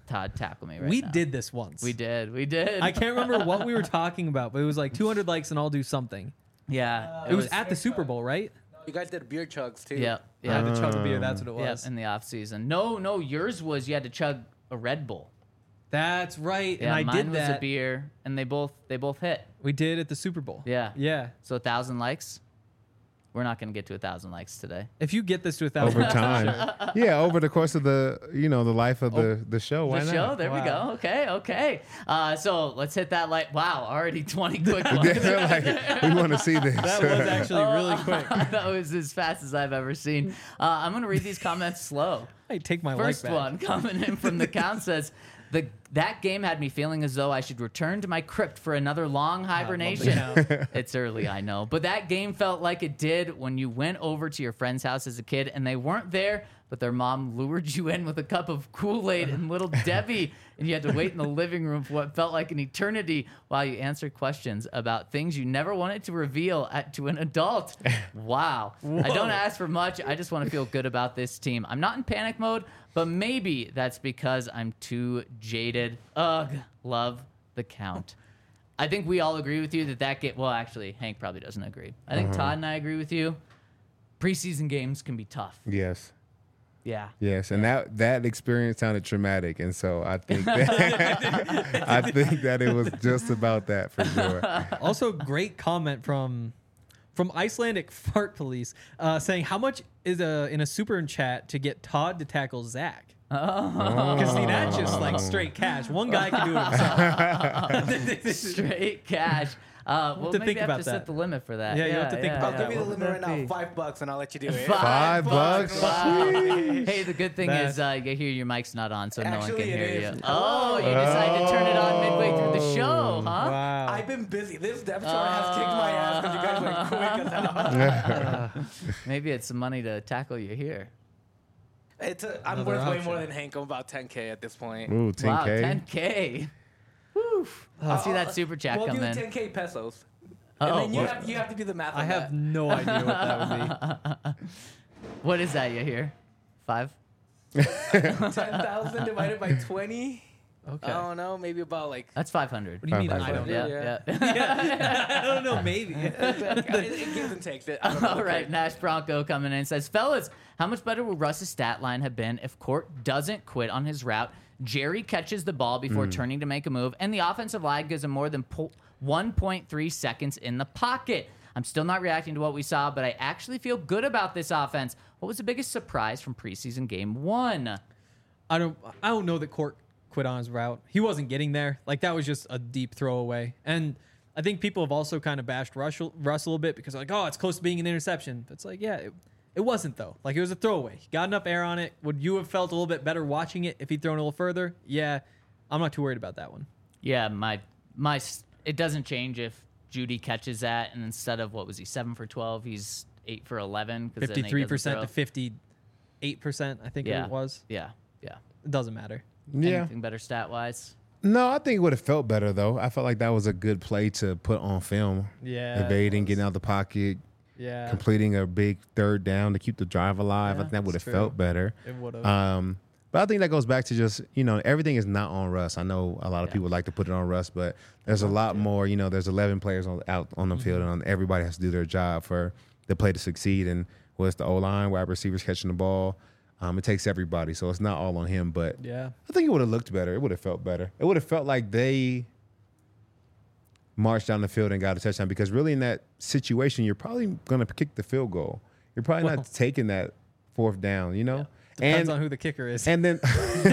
Todd tackle me right we now. did this once. We did. We did. I can't remember what we were talking about, but it was like two hundred likes and I'll do something. Yeah. It was at the Super Bowl, right? You guys did beer chugs too. Yeah. Yeah, Yeah. the chug of beer. That's what it Yeah. was. In the off season. No, no. Yours was you had to chug a Red Bull. That's right. Yeah. and I mine did was that. a beer, and they both they both hit. We did at the Super Bowl. Yeah. Yeah. So a thousand likes. We're not gonna get to a thousand likes today. If you get this to a thousand Over time. Yeah, over the course of the you know the life of the the show. Why The not? show. There we Wow. go. Okay. Okay. Uh, so let's hit that like. Wow. Already twenty quick ones. Yeah, like, we want to see this. That was actually really quick. that was as fast as I've ever seen. Uh, I'm gonna read these comments slow. I take my First like back. one coming in from the count says, the that game had me feeling as though I should return to my crypt for another long hibernation. It's early, I know. But that game felt like it did when you went over to your friend's house as a kid and they weren't there, but their mom lured you in with a cup of Kool-Aid and Little Debbie, and you had to wait in the living room for what felt like an eternity while you answered questions about things you never wanted to reveal at, to an adult. Wow. I don't ask for much. I just want to feel good about this team. I'm not in panic mode, but maybe that's because I'm too jaded. Ugh, love the count. I think we all agree with you that that game. Well, actually, Hank probably doesn't agree. I think Todd and I agree with you. Preseason games can be tough. Yes. Yeah. Yes, and that that experience sounded traumatic, and so I think that, I think that it was just about that for sure. Also, great comment from from Icelandic Fart Police uh, saying how much is a in a super chat to get Todd to tackle Zach. Because see, that's just like straight cash. One guy can do it himself. Straight cash. Uh, we'll to maybe think have about to set that. the limit for that. Yeah, you have to think about I'll that. give you the What limit would right that now, be? five bucks, and I'll let you do it. Five bucks. Wow. Hey, the good thing That- is uh, you hear your mic's not on, so no one Actually, can it hear is. you. Oh, you decided to turn it on midway through the show, huh? Wow. I've been busy. This depth chart has kicked my ass because you guys went quick as hell. Maybe it's some money to tackle you here. It's a, I'm Another worth way option. more than Hank. I'm about ten K at this point. Ooh, ten Wow, K. ten K. Woo. I see that super chat We'll come do in. ten K pesos. Oh, and then you what- have, you have to do the math on I have that. no idea what that would be. What is that you hear? Five? ten thousand divided by twenty? Okay. I don't know. Maybe about like... That's five hundred. What do you mean? Five I don't hundred. know. Yeah, yeah. I don't know. Maybe. it, it gives and takes. It. I don't know. All right, Nash Bronco coming in says, fellas, how much better would Russ's stat line have been if Court doesn't quit on his route, Jerry catches the ball before turning to make a move, and the offensive line gives him more than po- one point three seconds in the pocket? I'm still not reacting to what we saw, but I actually feel good about this offense. What was the biggest surprise from preseason game one? I don't. I don't know that Court quit on his route. He wasn't getting there. Like that was just a deep throwaway. And I think people have also kind of bashed Russ, Russ a little bit because like, oh, it's close to being an interception. But it's like, yeah, it, it wasn't though. Like it was a throwaway. He got enough air on it. Would you have felt a little bit better watching it if he'd thrown a little further? Yeah, I'm not too worried about that one. Yeah, my my s- it doesn't change if Judy catches that, and instead of what was he seven for twelve, he's eight for eleven. Fifty-three percent to fifty-eight percent, I think Yeah, it was. yeah, yeah. It doesn't matter. Yeah. Anything better stat wise? No, I think it would have felt better though. I felt like that was a good play to put on film. Yeah, Evading, getting out the pocket, Yeah, completing a big third down to keep the drive alive. Yeah, I think that would have that's true. felt better. it would have. Um, but I think that goes back to just, you know, everything is not on Russ. I know a lot of Yeah. people like to put it on Russ, but there's a lot more, you know, there's eleven players on, out on the field, and everybody has to do their job for the play to succeed. And what's the O-line, wide receivers catching the ball. Um, it takes everybody, so it's not all on him. But yeah, I think it would have looked better. It would have felt better. It would have felt like they marched down the field and got a touchdown, because really in that situation, you're probably going to kick the field goal. You're probably Well. not taking that fourth down, you know? depends and on who the kicker is. and then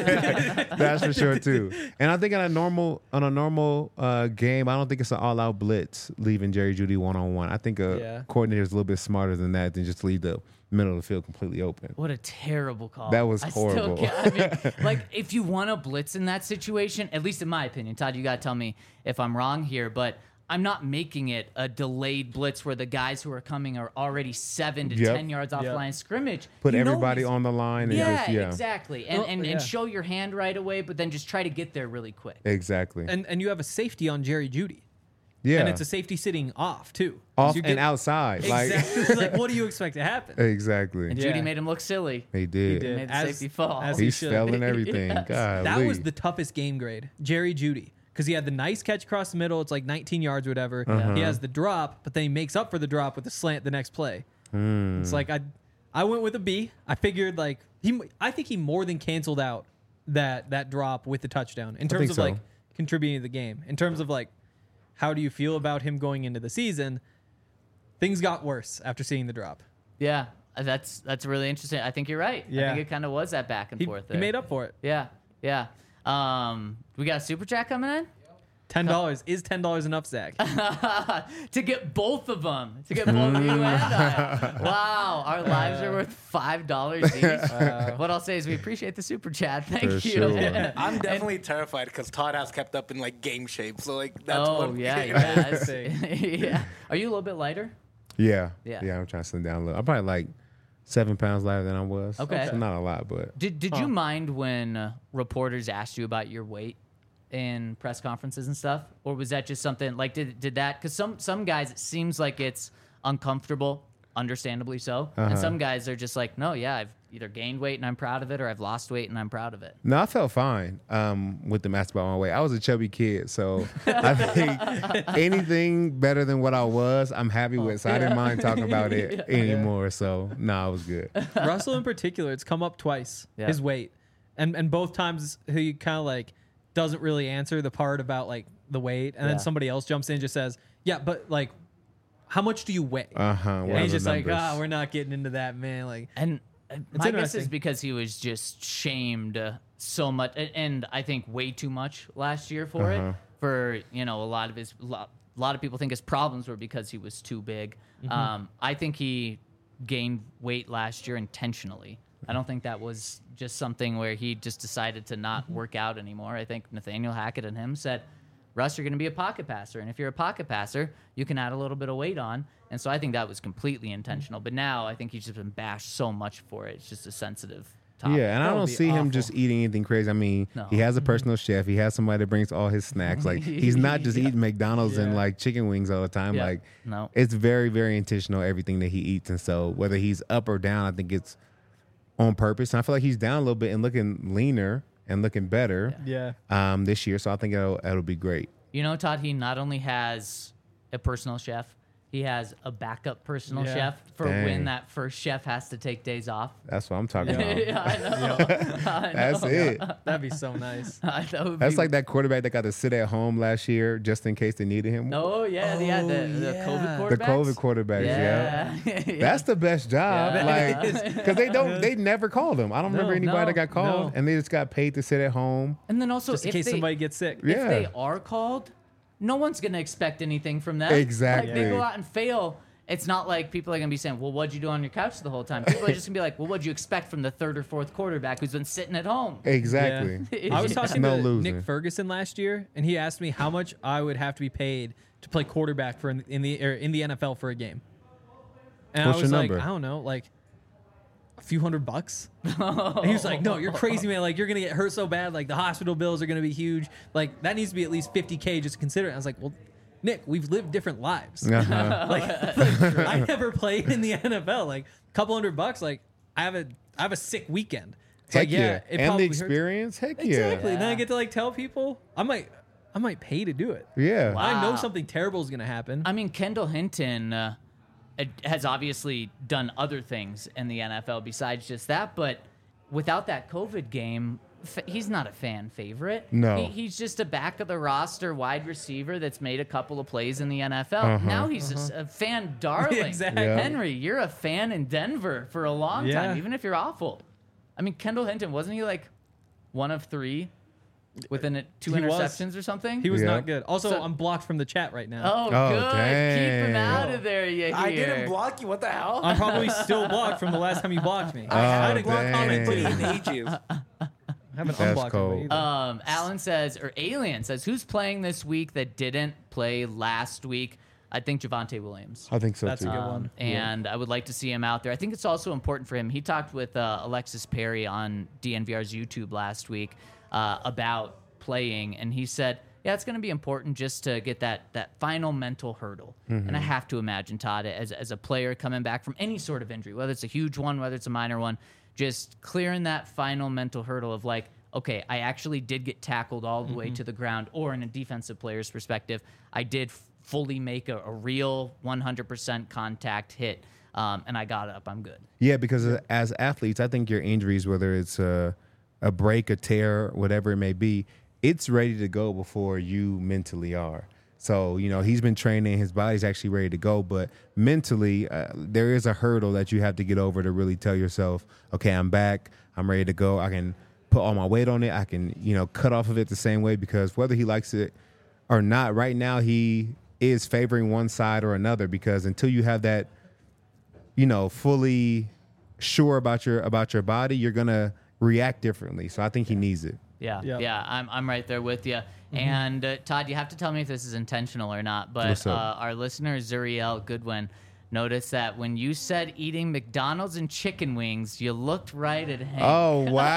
that's for sure too. And I think on a normal on a normal uh, game, I don't think it's an all out blitz leaving Jerry Judy one on one. I think a Yeah. coordinator is a little bit smarter than that than just leave the middle of the field completely open. What a terrible call. That was I horrible. Still can't, I mean, like, if you want to blitz in that situation, at least in my opinion, Todd, you got to tell me if I'm wrong here, but I'm not making it a delayed blitz where the guys who are coming are already seven to Yep. ten yards off Yep. line of scrimmage. Put You know everybody he's- on the line and Yeah, just yeah, exactly. And, Well, and, yeah. and show your hand right away, but then just try to get there really quick. exactly. and and you have a safety on Jerry Judy. Yeah. And it's a safety sitting off too. Off You and get- outside. Exactly. Like, what do you expect to happen? Like exactly. And Yeah. Judy made him look silly. He did. did. Made the As- safety fall. as he He's should. selling everything. God, That was the toughest game grade, Jerry Judy, because he had the nice catch across the middle. It's like nineteen yards or whatever. Uh-huh. He has the drop, but then he makes up for the drop with the slant the next play. Hmm. It's like I, I went with a B. I figured like he, I think he more than canceled out that that drop with the touchdown in terms think of so. like contributing to the game. In terms of like, how do you feel about him going into the season? Things got worse after seeing the drop. Yeah, uh, that's that's really interesting. I think you're right. I Yeah. think it kind of was that back and He, forth he there. made up for it. Yeah, yeah. Um, we got a super chat coming in Ten dollars is ten dollars enough, Zach. to get both of them. To get both of you and I. Wow, our lives are worth five dollars each. what I'll say is we appreciate the super chat. Thank For you. sure. I'm definitely terrified because Todd has kept up in like game shape. So like that's Oh what yeah, yeah, That's it's- yeah. Are you a little bit lighter? Yeah. Yeah. Yeah. I'm trying to slim down a little. I'm probably like seven pounds lighter than I was. Okay. So not a lot, but Did Did you mind when uh, reporters asked you about your weight in press conferences and stuff, or was that just something like did did that? Because some some guys it seems like it's uncomfortable, understandably so, Uh-huh. and some guys are just like, no, yeah, I've either gained weight and I'm proud of it, or I've lost weight and I'm proud of it. no, I felt fine um, with them asking about my weight. I was a chubby kid, so I think anything better than what I was, I'm happy with. So I didn't mind talking about it anymore. So no, I was good. Russell in particular, it's come up twice. Yeah. His weight, and and both times he kind of like doesn't really answer the part about like the weight, and Yeah. then somebody else jumps in and just says, "Yeah, but like, how much do you weigh?" Uh huh. and he's just like, "Ah, we're not getting into that, man." Like, And uh, my guess is interesting. because he was just shamed uh, so much, and, and I think way too much last year for Uh-huh. it. For you know, a lot of his, lo- a lot of people think his problems were because he was too big. Um, I think he gained weight last year intentionally. I don't think that was just something where he just decided to not work out anymore. I think Nathaniel Hackett and him said, Russ, you're going to be a pocket passer. And if you're a pocket passer, you can add a little bit of weight on. And so I think that was completely intentional. But now I think he's just been bashed so much for it. It's just a sensitive topic. Yeah, and I That would don't be see him awful. just eating anything crazy. I mean, No. he has a personal chef. He has somebody that brings all his snacks. Like he's not just eating McDonald's and Yeah. like chicken wings all the time. Yeah. Like No. it's very, very intentional everything that he eats. And so whether he's up or down, I think it's on purpose. And I feel like he's down a little bit and looking leaner and looking better yeah, um, this year. So I think it'll, it'll be great. You know, Todd, he not only has a personal chef, he has a backup personal Yeah. chef for Dang. when that first chef has to take days off. That's what I'm talking about. yeah, I know. I That's know. it. that'd be so nice. I- that would That's be- like that quarterback that got to sit at home last year just in case they needed him. Oh, yeah, yeah, the, the yeah. COVID quarterbacks. The COVID quarterbacks, yeah. Yeah. yeah. That's the best job, Yeah. like because they don't, they never called him. I don't remember No, anybody no, that got called, no. and they just got paid to sit at home. And then also, Just in if case they, somebody gets sick. if Yeah. they are called, no one's going to expect anything from them. Exactly. Like, they go out and fail. It's not like people are going to be saying, well, what'd you do on your couch the whole time? People are just going to be like, well, what'd you expect from the third or fourth quarterback who's been sitting at home? Exactly. Yeah. I was Yeah. talking No to losing. Nick Ferguson last year, and he asked me how much I would have to be paid to play quarterback for in, in the or in the N F L for a game. And What's I was your like, number? I don't know, like a few hundred bucks. And he was like, "No, you're crazy, man. Like you're gonna get hurt so bad. Like the hospital bills are gonna be huge. Like that needs to be at least fifty K just to consider it." I was like, "Well, Nick, we've lived different lives. Uh-huh. like, like, I never played in the N F L. Like a couple hundred bucks. Like I have a I have a sick weekend. It's Heck like, yeah, yeah, it and the probably hurts. experience. Heck yeah, Exactly. And then I Yeah. get to like tell people I might I might pay to do it. yeah. Wow. I know something terrible is gonna happen. I mean, Kendall Hinton uh, it- has obviously done other things in the N F L besides just that, but without that COVID game, f- he's not a fan favorite. No. He, he's just a back of the roster wide receiver that's made a couple of plays in the N F L. Uh-huh. Now he's just a fan darling. Exactly. Yeah. Henry, you're a fan in Denver for a long Yeah. time, even if you're awful. I mean, Kendall Hinton, wasn't he like one of three with an, two He was. interceptions or something? He was Yeah. not good. Also, So- I'm blocked from the chat right now. Oh, Oh, good. Keep him dang. out of there, you hear. I didn't block you. What the hell? I'm probably still blocked from the last time you blocked me. I had Oh, a block comment dang. in ages. I haven't That's unblocked cold. anybody either. Um, Alan says, or Alien says, who's playing this week that didn't play last week? I think Javonte Williams. I think so That's a too. good Um, one. and I would like to see him out there. I think it's also important for him. He talked with uh, Alexis Perry on D N V R's YouTube last week uh, about playing, and he said yeah, it's going to be important just to get that that final mental hurdle. And I have to imagine, Todd, as as a player coming back from any sort of injury, whether it's a huge one, whether it's a minor one, just clearing that final mental hurdle of like, okay, I actually did get tackled all the way to the ground, or in a defensive player's perspective, I did f- fully make a, a real one hundred percent contact hit, um, and I got up. I'm good. Yeah, because as athletes, I think your injuries, whether it's a, a break, a tear, whatever it may be, it's ready to go before you mentally are. So, you know, he's been training, his body's actually ready to go, but mentally, uh, there is a hurdle that you have to get over to really tell yourself, okay, I'm back, I'm ready to go, I can put all my weight on it, I can, you know, cut off of it the same way, because whether he likes it or not, right now he is favoring one side or another, because until you have that, you know, fully sure about your about your body, you're gonna react differently. So I think he needs it. Yeah, Yep. yeah, I'm I'm right there with you. And uh, Todd, you have to tell me if this is intentional or not. But What's uh, up? our listener Zuriel Goodwin noticed that when you said eating McDonald's and chicken wings, you looked right at him. Oh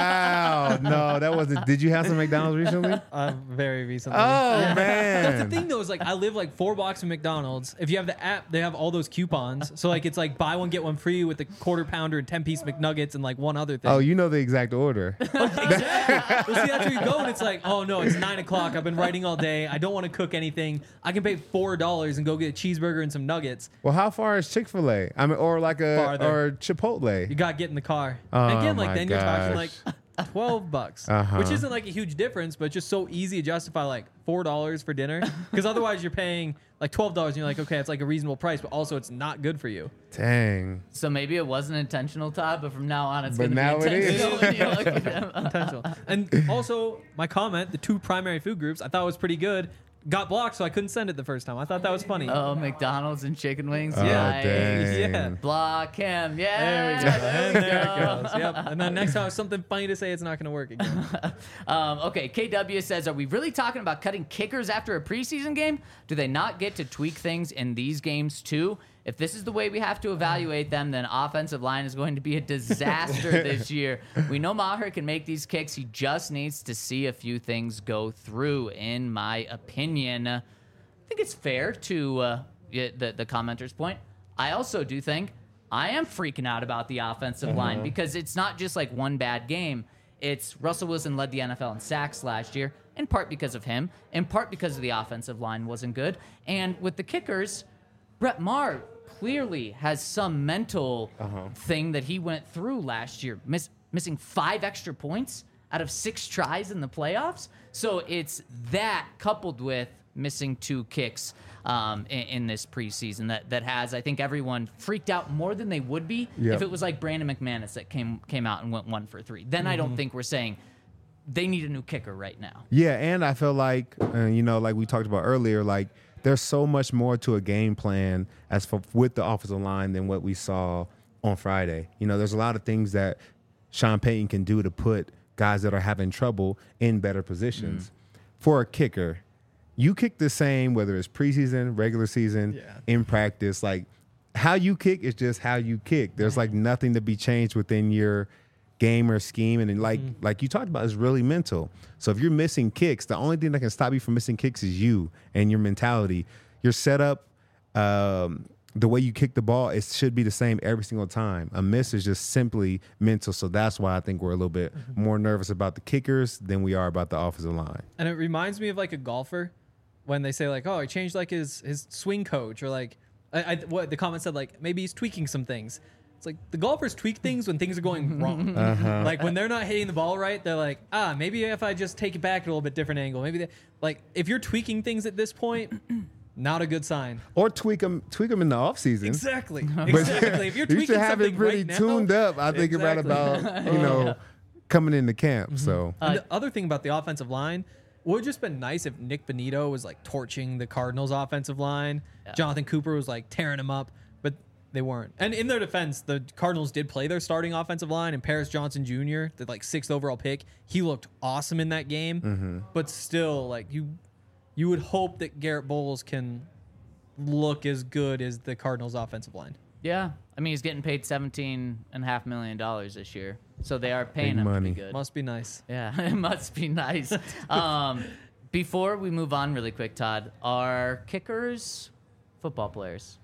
wow! No, that wasn't. Did you have some McDonald's recently? Uh, very recently. Oh That's man! the thing though, is like I live like four blocks from McDonald's. If you have the app, they have all those coupons. So like it's like buy one get one free with the quarter pounder and ten piece McNuggets and like one other thing. Oh, you know the exact order. Exactly. Well, see, that's where you go, and it's like, oh no, it's nine o'clock. I've been writing all day. I don't want to cook anything. I can pay four dollars and go get a cheeseburger and some nuggets. Well, how far is Chick-fil-A? I mean, or like a Farther. or Chipotle. You got to get in the car. Oh, And again, like my then you're talking like gosh. twelve bucks, Uh-huh. which isn't like a huge difference, but just so easy to justify like four dollars for dinner. Because otherwise you're paying like twelve dollars and you're like, okay, it's like a reasonable price, but also it's not good for you. Dang. So maybe it wasn't intentional, Todd, but from now on it's But going to now be it is. intentional. when you look at him. Potential. And also, my comment, the two primary food groups, I thought was pretty good. Got blocked, so I couldn't send it the first time. I thought that was funny. Oh, McDonald's and chicken wings. Oh, Nice. dang. Yeah. Block him. Yeah. There we go. there And we there go. it goes. Yep. And then next time, something funny to say, it's not going to work again. Um, okay, K W says, are we really talking about cutting kickers after a preseason game? Do they not get to tweak things in these games too? If this is the way we have to evaluate them, then offensive line is going to be a disaster this year. We know Maher can make these kicks. He just needs to see a few things go through, in my opinion. I think it's fair to uh, yeah, the, the commenter's point. I also do think I am freaking out about the offensive line, because it's not just like one bad game. It's Russell Wilson led the N F L in sacks last year, in part because of him, in part because of the offensive line wasn't good. And with the kickers, Brett Maher clearly has some mental thing that he went through last year, miss, missing five extra points out of six tries in the playoffs. So it's that coupled with missing two kicks um, in, in this preseason that, that has, I think, everyone freaked out more than they would be Yep. if it was like Brandon McManus that came came out and went one for three. Then I don't think we're saying they need a new kicker right now. Yeah, and I feel like, uh, you know, like we talked about earlier, like there's so much more to a game plan as for with the offensive line than what we saw on Friday. You know, there's a lot of things that Sean Payton can do to put guys that are having trouble in better positions. For a kicker, you kick the same whether it's preseason, regular season, Yeah. in practice. Like how you kick is just how you kick. There's like nothing to be changed within your game or scheme, and then like like you talked about, is really mental. So if you're missing kicks, the only thing that can stop you from missing kicks is you and your mentality. Your setup, um, the way you kick the ball, it should be the same every single time. A miss is just simply mental. So that's why I think we're a little bit more nervous about the kickers than we are about the offensive line. And it reminds me of like a golfer when they say like, oh, he changed like his his swing coach, or like I, I what the comment said, like maybe he's tweaking some things. It's like the golfers tweak things when things are going wrong. Uh-huh. Like when they're not hitting the ball right, they're like, ah, maybe if I just take it back at a little bit different angle, maybe they, like if you're tweaking things at this point, not a good sign. Or tweak them, tweak them in the offseason. Exactly. But Exactly. If you're tweaking you should have it something pretty right now, tuned up. I think about Exactly. about you know coming into camp. So And the other thing about the offensive line, would have just been nice if Nick Bonito was like torching the Cardinals offensive line. Jonathan Cooper was like tearing them up, but they weren't. And in their defense, the Cardinals did play their starting offensive line, and Paris Johnson Junior, the like sixth overall pick, he looked awesome in that game. But still, like you, you would hope that Garrett Bowles can look as good as the Cardinals offensive line. Yeah. I mean, he's getting paid seventeen and a half million dollars this year. So they are paying Big him money. pretty good. Must be nice. Yeah, it must be nice. Um, Before we move on really quick, Todd, are kickers football players?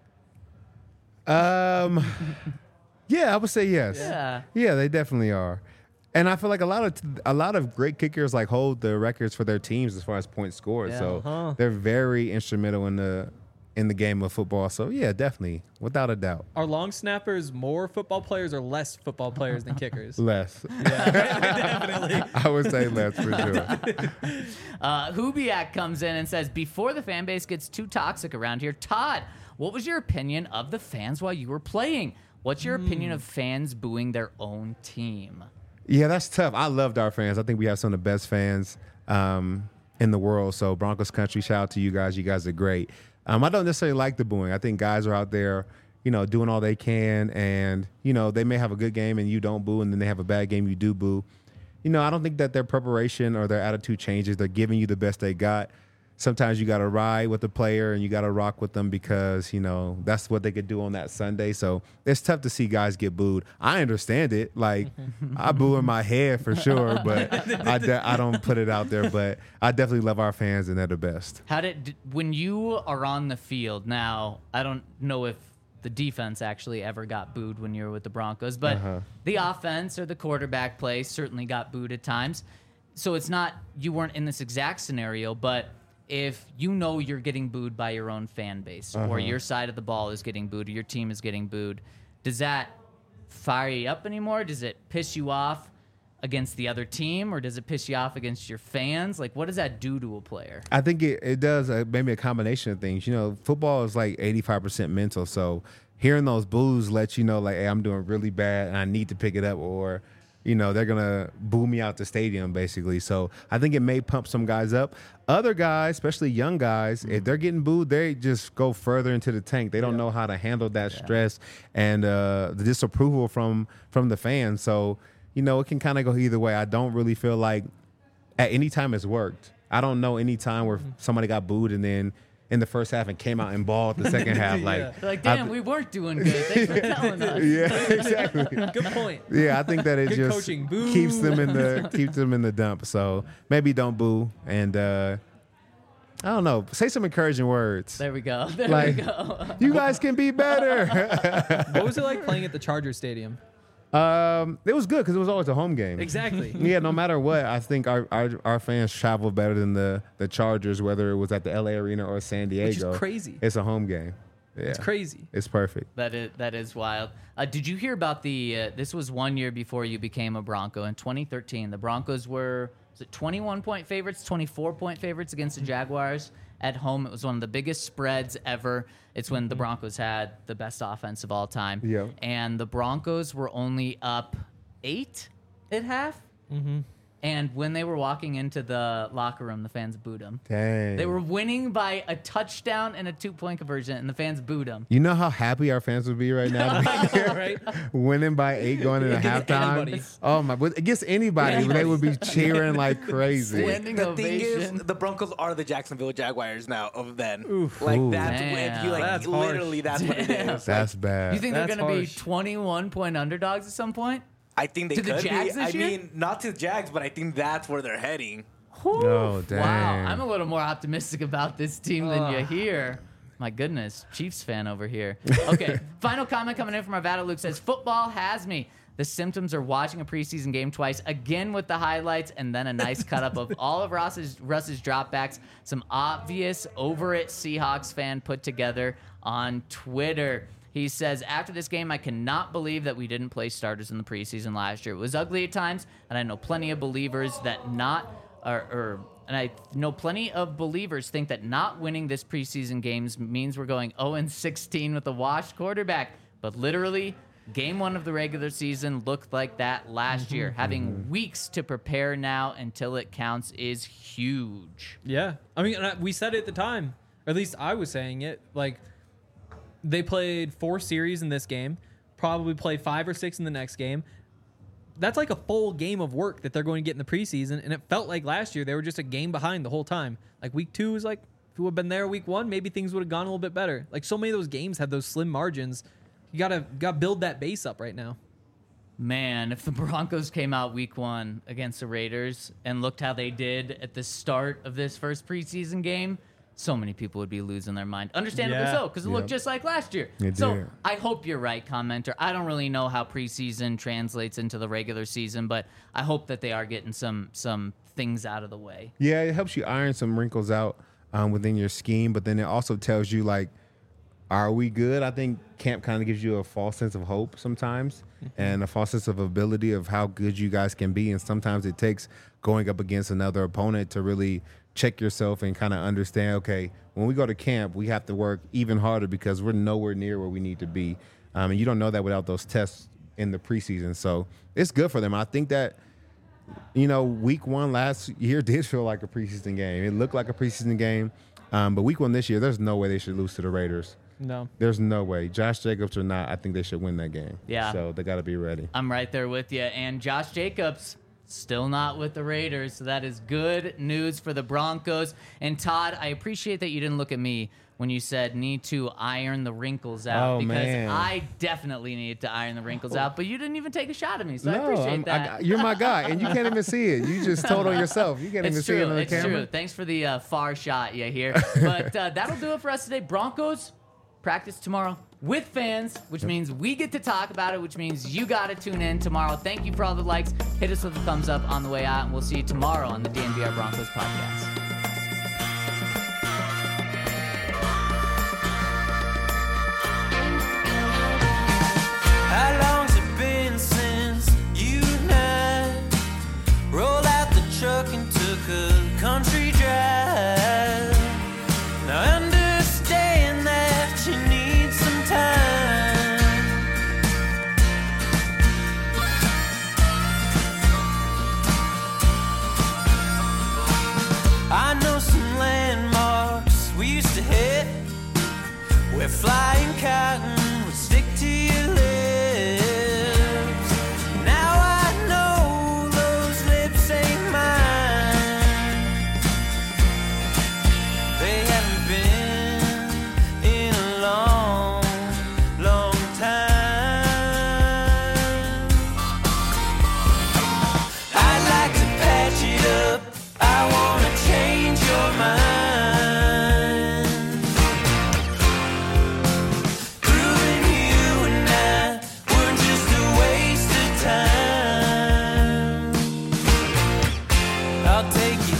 Um, yeah, I would say yes. Yeah. Yeah, they definitely are. And I feel like a lot of a lot of great kickers like hold the records for their teams as far as points scored. Yeah. So Uh-huh. they're very instrumental in the in the game of football. So yeah, definitely, without a doubt. Are long snappers more football players or less football players than kickers? Less. Definitely. I would say less for sure. Uh, Hubiak comes in and says, before the fan base gets too toxic around here, Todd, what was your opinion of the fans while you were playing? What's your opinion of fans booing their own team? Yeah, that's tough. I loved our fans. I think we have some of the best fans um, in the world. So Broncos country, shout out to you guys. You guys are great. Um, I don't necessarily like the booing. I think guys are out there, you know, doing all they can, and you know they may have a good game and you don't boo, and then they have a bad game, you do boo. You know, I don't think that their preparation or their attitude changes. They're giving you the best they got. Sometimes you got to ride with the player and you got to rock with them because, you know, that's what they could do on that Sunday. So it's tough to see guys get booed. I understand it. Like, I boo in my head for sure, but I, de- I don't put it out there. But I definitely love our fans, and they're the best. How did d- when you are on the field now? I don't know if the defense actually ever got booed when you were with the Broncos, but Uh-huh. the offense or the quarterback play certainly got booed at times. So it's not you weren't in this exact scenario, but if you know you're getting booed by your own fan base, or your side of the ball is getting booed, or your team is getting booed, does that fire you up anymore? Does it piss you off against the other team, or does it piss you off against your fans? Like, what does that do to a player? I think it, it does uh, maybe a combination of things. You know, football is like eighty-five percent mental. So hearing those boos lets you know, like, hey, I'm doing really bad and I need to pick it up, or, you know, they're going to boo me out the stadium, basically. So I think it may pump some guys up. Other guys, especially young guys, if they're getting booed, they just go further into the tank. They don't know how to handle that stress and uh, the disapproval from from the fans. So, you know, it can kind of go either way. I don't really feel like at any time it's worked. I don't know any time where somebody got booed and then in the first half and came out and balled the second half. Like, Yeah. They're like, I damn, th- we weren't doing good. Thanks for telling us. yeah, exactly. Good point. Yeah, I think that it Good just coaching. Boo. keeps them in the keeps them in the dump. So maybe don't boo, and uh, I don't know. Say some encouraging words. There we go. There Like- we go. You guys can be better. What was it like playing at the Charger Stadium? um, it was good because it was always a home game. Exactly. Yeah, no matter what, I think our, our our fans travel better than the the Chargers, whether it was at the L A Arena or San Diego. Which is crazy. It's a home game. Yeah, It's crazy. It's perfect. That is that is wild. Uh, did you hear about the? Uh, this was one year before you became a Bronco in twenty thirteen. The Broncos were was it twenty-one point favorites, twenty-four point favorites against the Jaguars at home. It was one of the biggest spreads ever. It's when the Broncos had the best offense of all time. Yeah. And the Broncos were only up eight at half. Mm-hmm. And when they were walking into the locker room, the fans booed them. Dang. They were winning by a touchdown and a two-point conversion, and the fans booed them. You know how happy our fans would be right now, Right? winning by eight going into Against halftime. anybody. Oh my! But against anybody, Yeah. they would be cheering like crazy. Standing The thing is, ovation. the Broncos are the Jacksonville Jaguars now of then. Like Ooh. that's Damn. if you like That's harsh. literally that's what it is. That's bad. You think they're That's going to be harsh. twenty-one point underdogs at some point? I think they To the could Jags be. this I year? mean, not to the Jags, but I think that's where they're heading. Oh, dang. Wow, I'm a little more optimistic about this team than you hear. My goodness, Chiefs fan over here. Okay, final comment coming in from Arvada Luke says, football has me. The symptoms are watching a preseason game twice, again with the highlights, and then a nice cut up of all of Russ's, Russ's dropbacks. Some obvious over it Seahawks fan put together on Twitter. He says, after this game, I cannot believe that we didn't play starters in the preseason last year. It was ugly at times, and I know plenty of believers that not, or, or and I know plenty of believers think that not winning this preseason games means we're going oh and sixteen with a washed quarterback. But literally, game one of the regular season looked like that last year. Having weeks to prepare now until it counts is huge. Yeah. I mean, and I- we said it at the time, or at least I was saying it. Like, they played four series in this game, probably play five or six in the next game. That's like a full game of work that they're going to get in the preseason. And it felt like last year they were just a game behind the whole time. Like week two was like, if we would have been there week one, maybe things would have gone a little bit better. Like so many of those games have those slim margins. You gotta gotta build that base up right now. Man, if the Broncos came out week one against the Raiders and looked how they did at the start of this first preseason game, so many people would be losing their mind. Understandably Yeah. so, because it looked Yep. just like last year. It so did. I hope you're right, commenter. I don't really know how preseason translates into the regular season, but I hope that they are getting some some things out of the way. Yeah, it helps you iron some wrinkles out um, within your scheme, but then it also tells you, like, are we good? I think camp kind of gives you a false sense of hope sometimes and a false sense of ability of how good you guys can be. And sometimes it takes going up against another opponent to really check yourself and kind of understand, okay, when we go to camp, we have to work even harder because we're nowhere near where we need to be. Um, and you don't know that without those tests in the preseason. So it's good for them. I think that, you know, week one last year did feel like a preseason game. It looked like a preseason game. Um, but week one this year, there's no way they should lose to the Raiders. No. There's no way. Josh Jacobs or not, I think they should win that game. Yeah. So they got to be ready. I'm right there with you. And Josh Jacobs still not with the Raiders, so that is good news for the Broncos. And Todd, I appreciate that you didn't look at me when you said need to iron the wrinkles out Oh, because man. I definitely needed to iron the wrinkles out, but you didn't even take a shot at me, so I no, appreciate I'm- that. I, you're my guy, and you can't even see it. You just told on yourself. You can't even It's see it true. on the It's camera. true. Thanks for the uh, far shot you hear. But uh, that'll do it for us today. Broncos practice tomorrow with fans, which means we get to talk about it, which means you got to tune in tomorrow. Thank you for all the likes. Hit us with a thumbs up on the way out, and we'll see you tomorrow on the D N V R Broncos podcast. How long's it been since you and I rolled out the truck and took a country drive? Now I understand that you need some time. I know some landmarks we used to hit where flying cotton would stick to your lips. Now I know those lips ain't mine. They haven't been in a long, long time. I'd like to patch it up. I wanna change your mind. Proving you and I were just a waste of time. I'll take you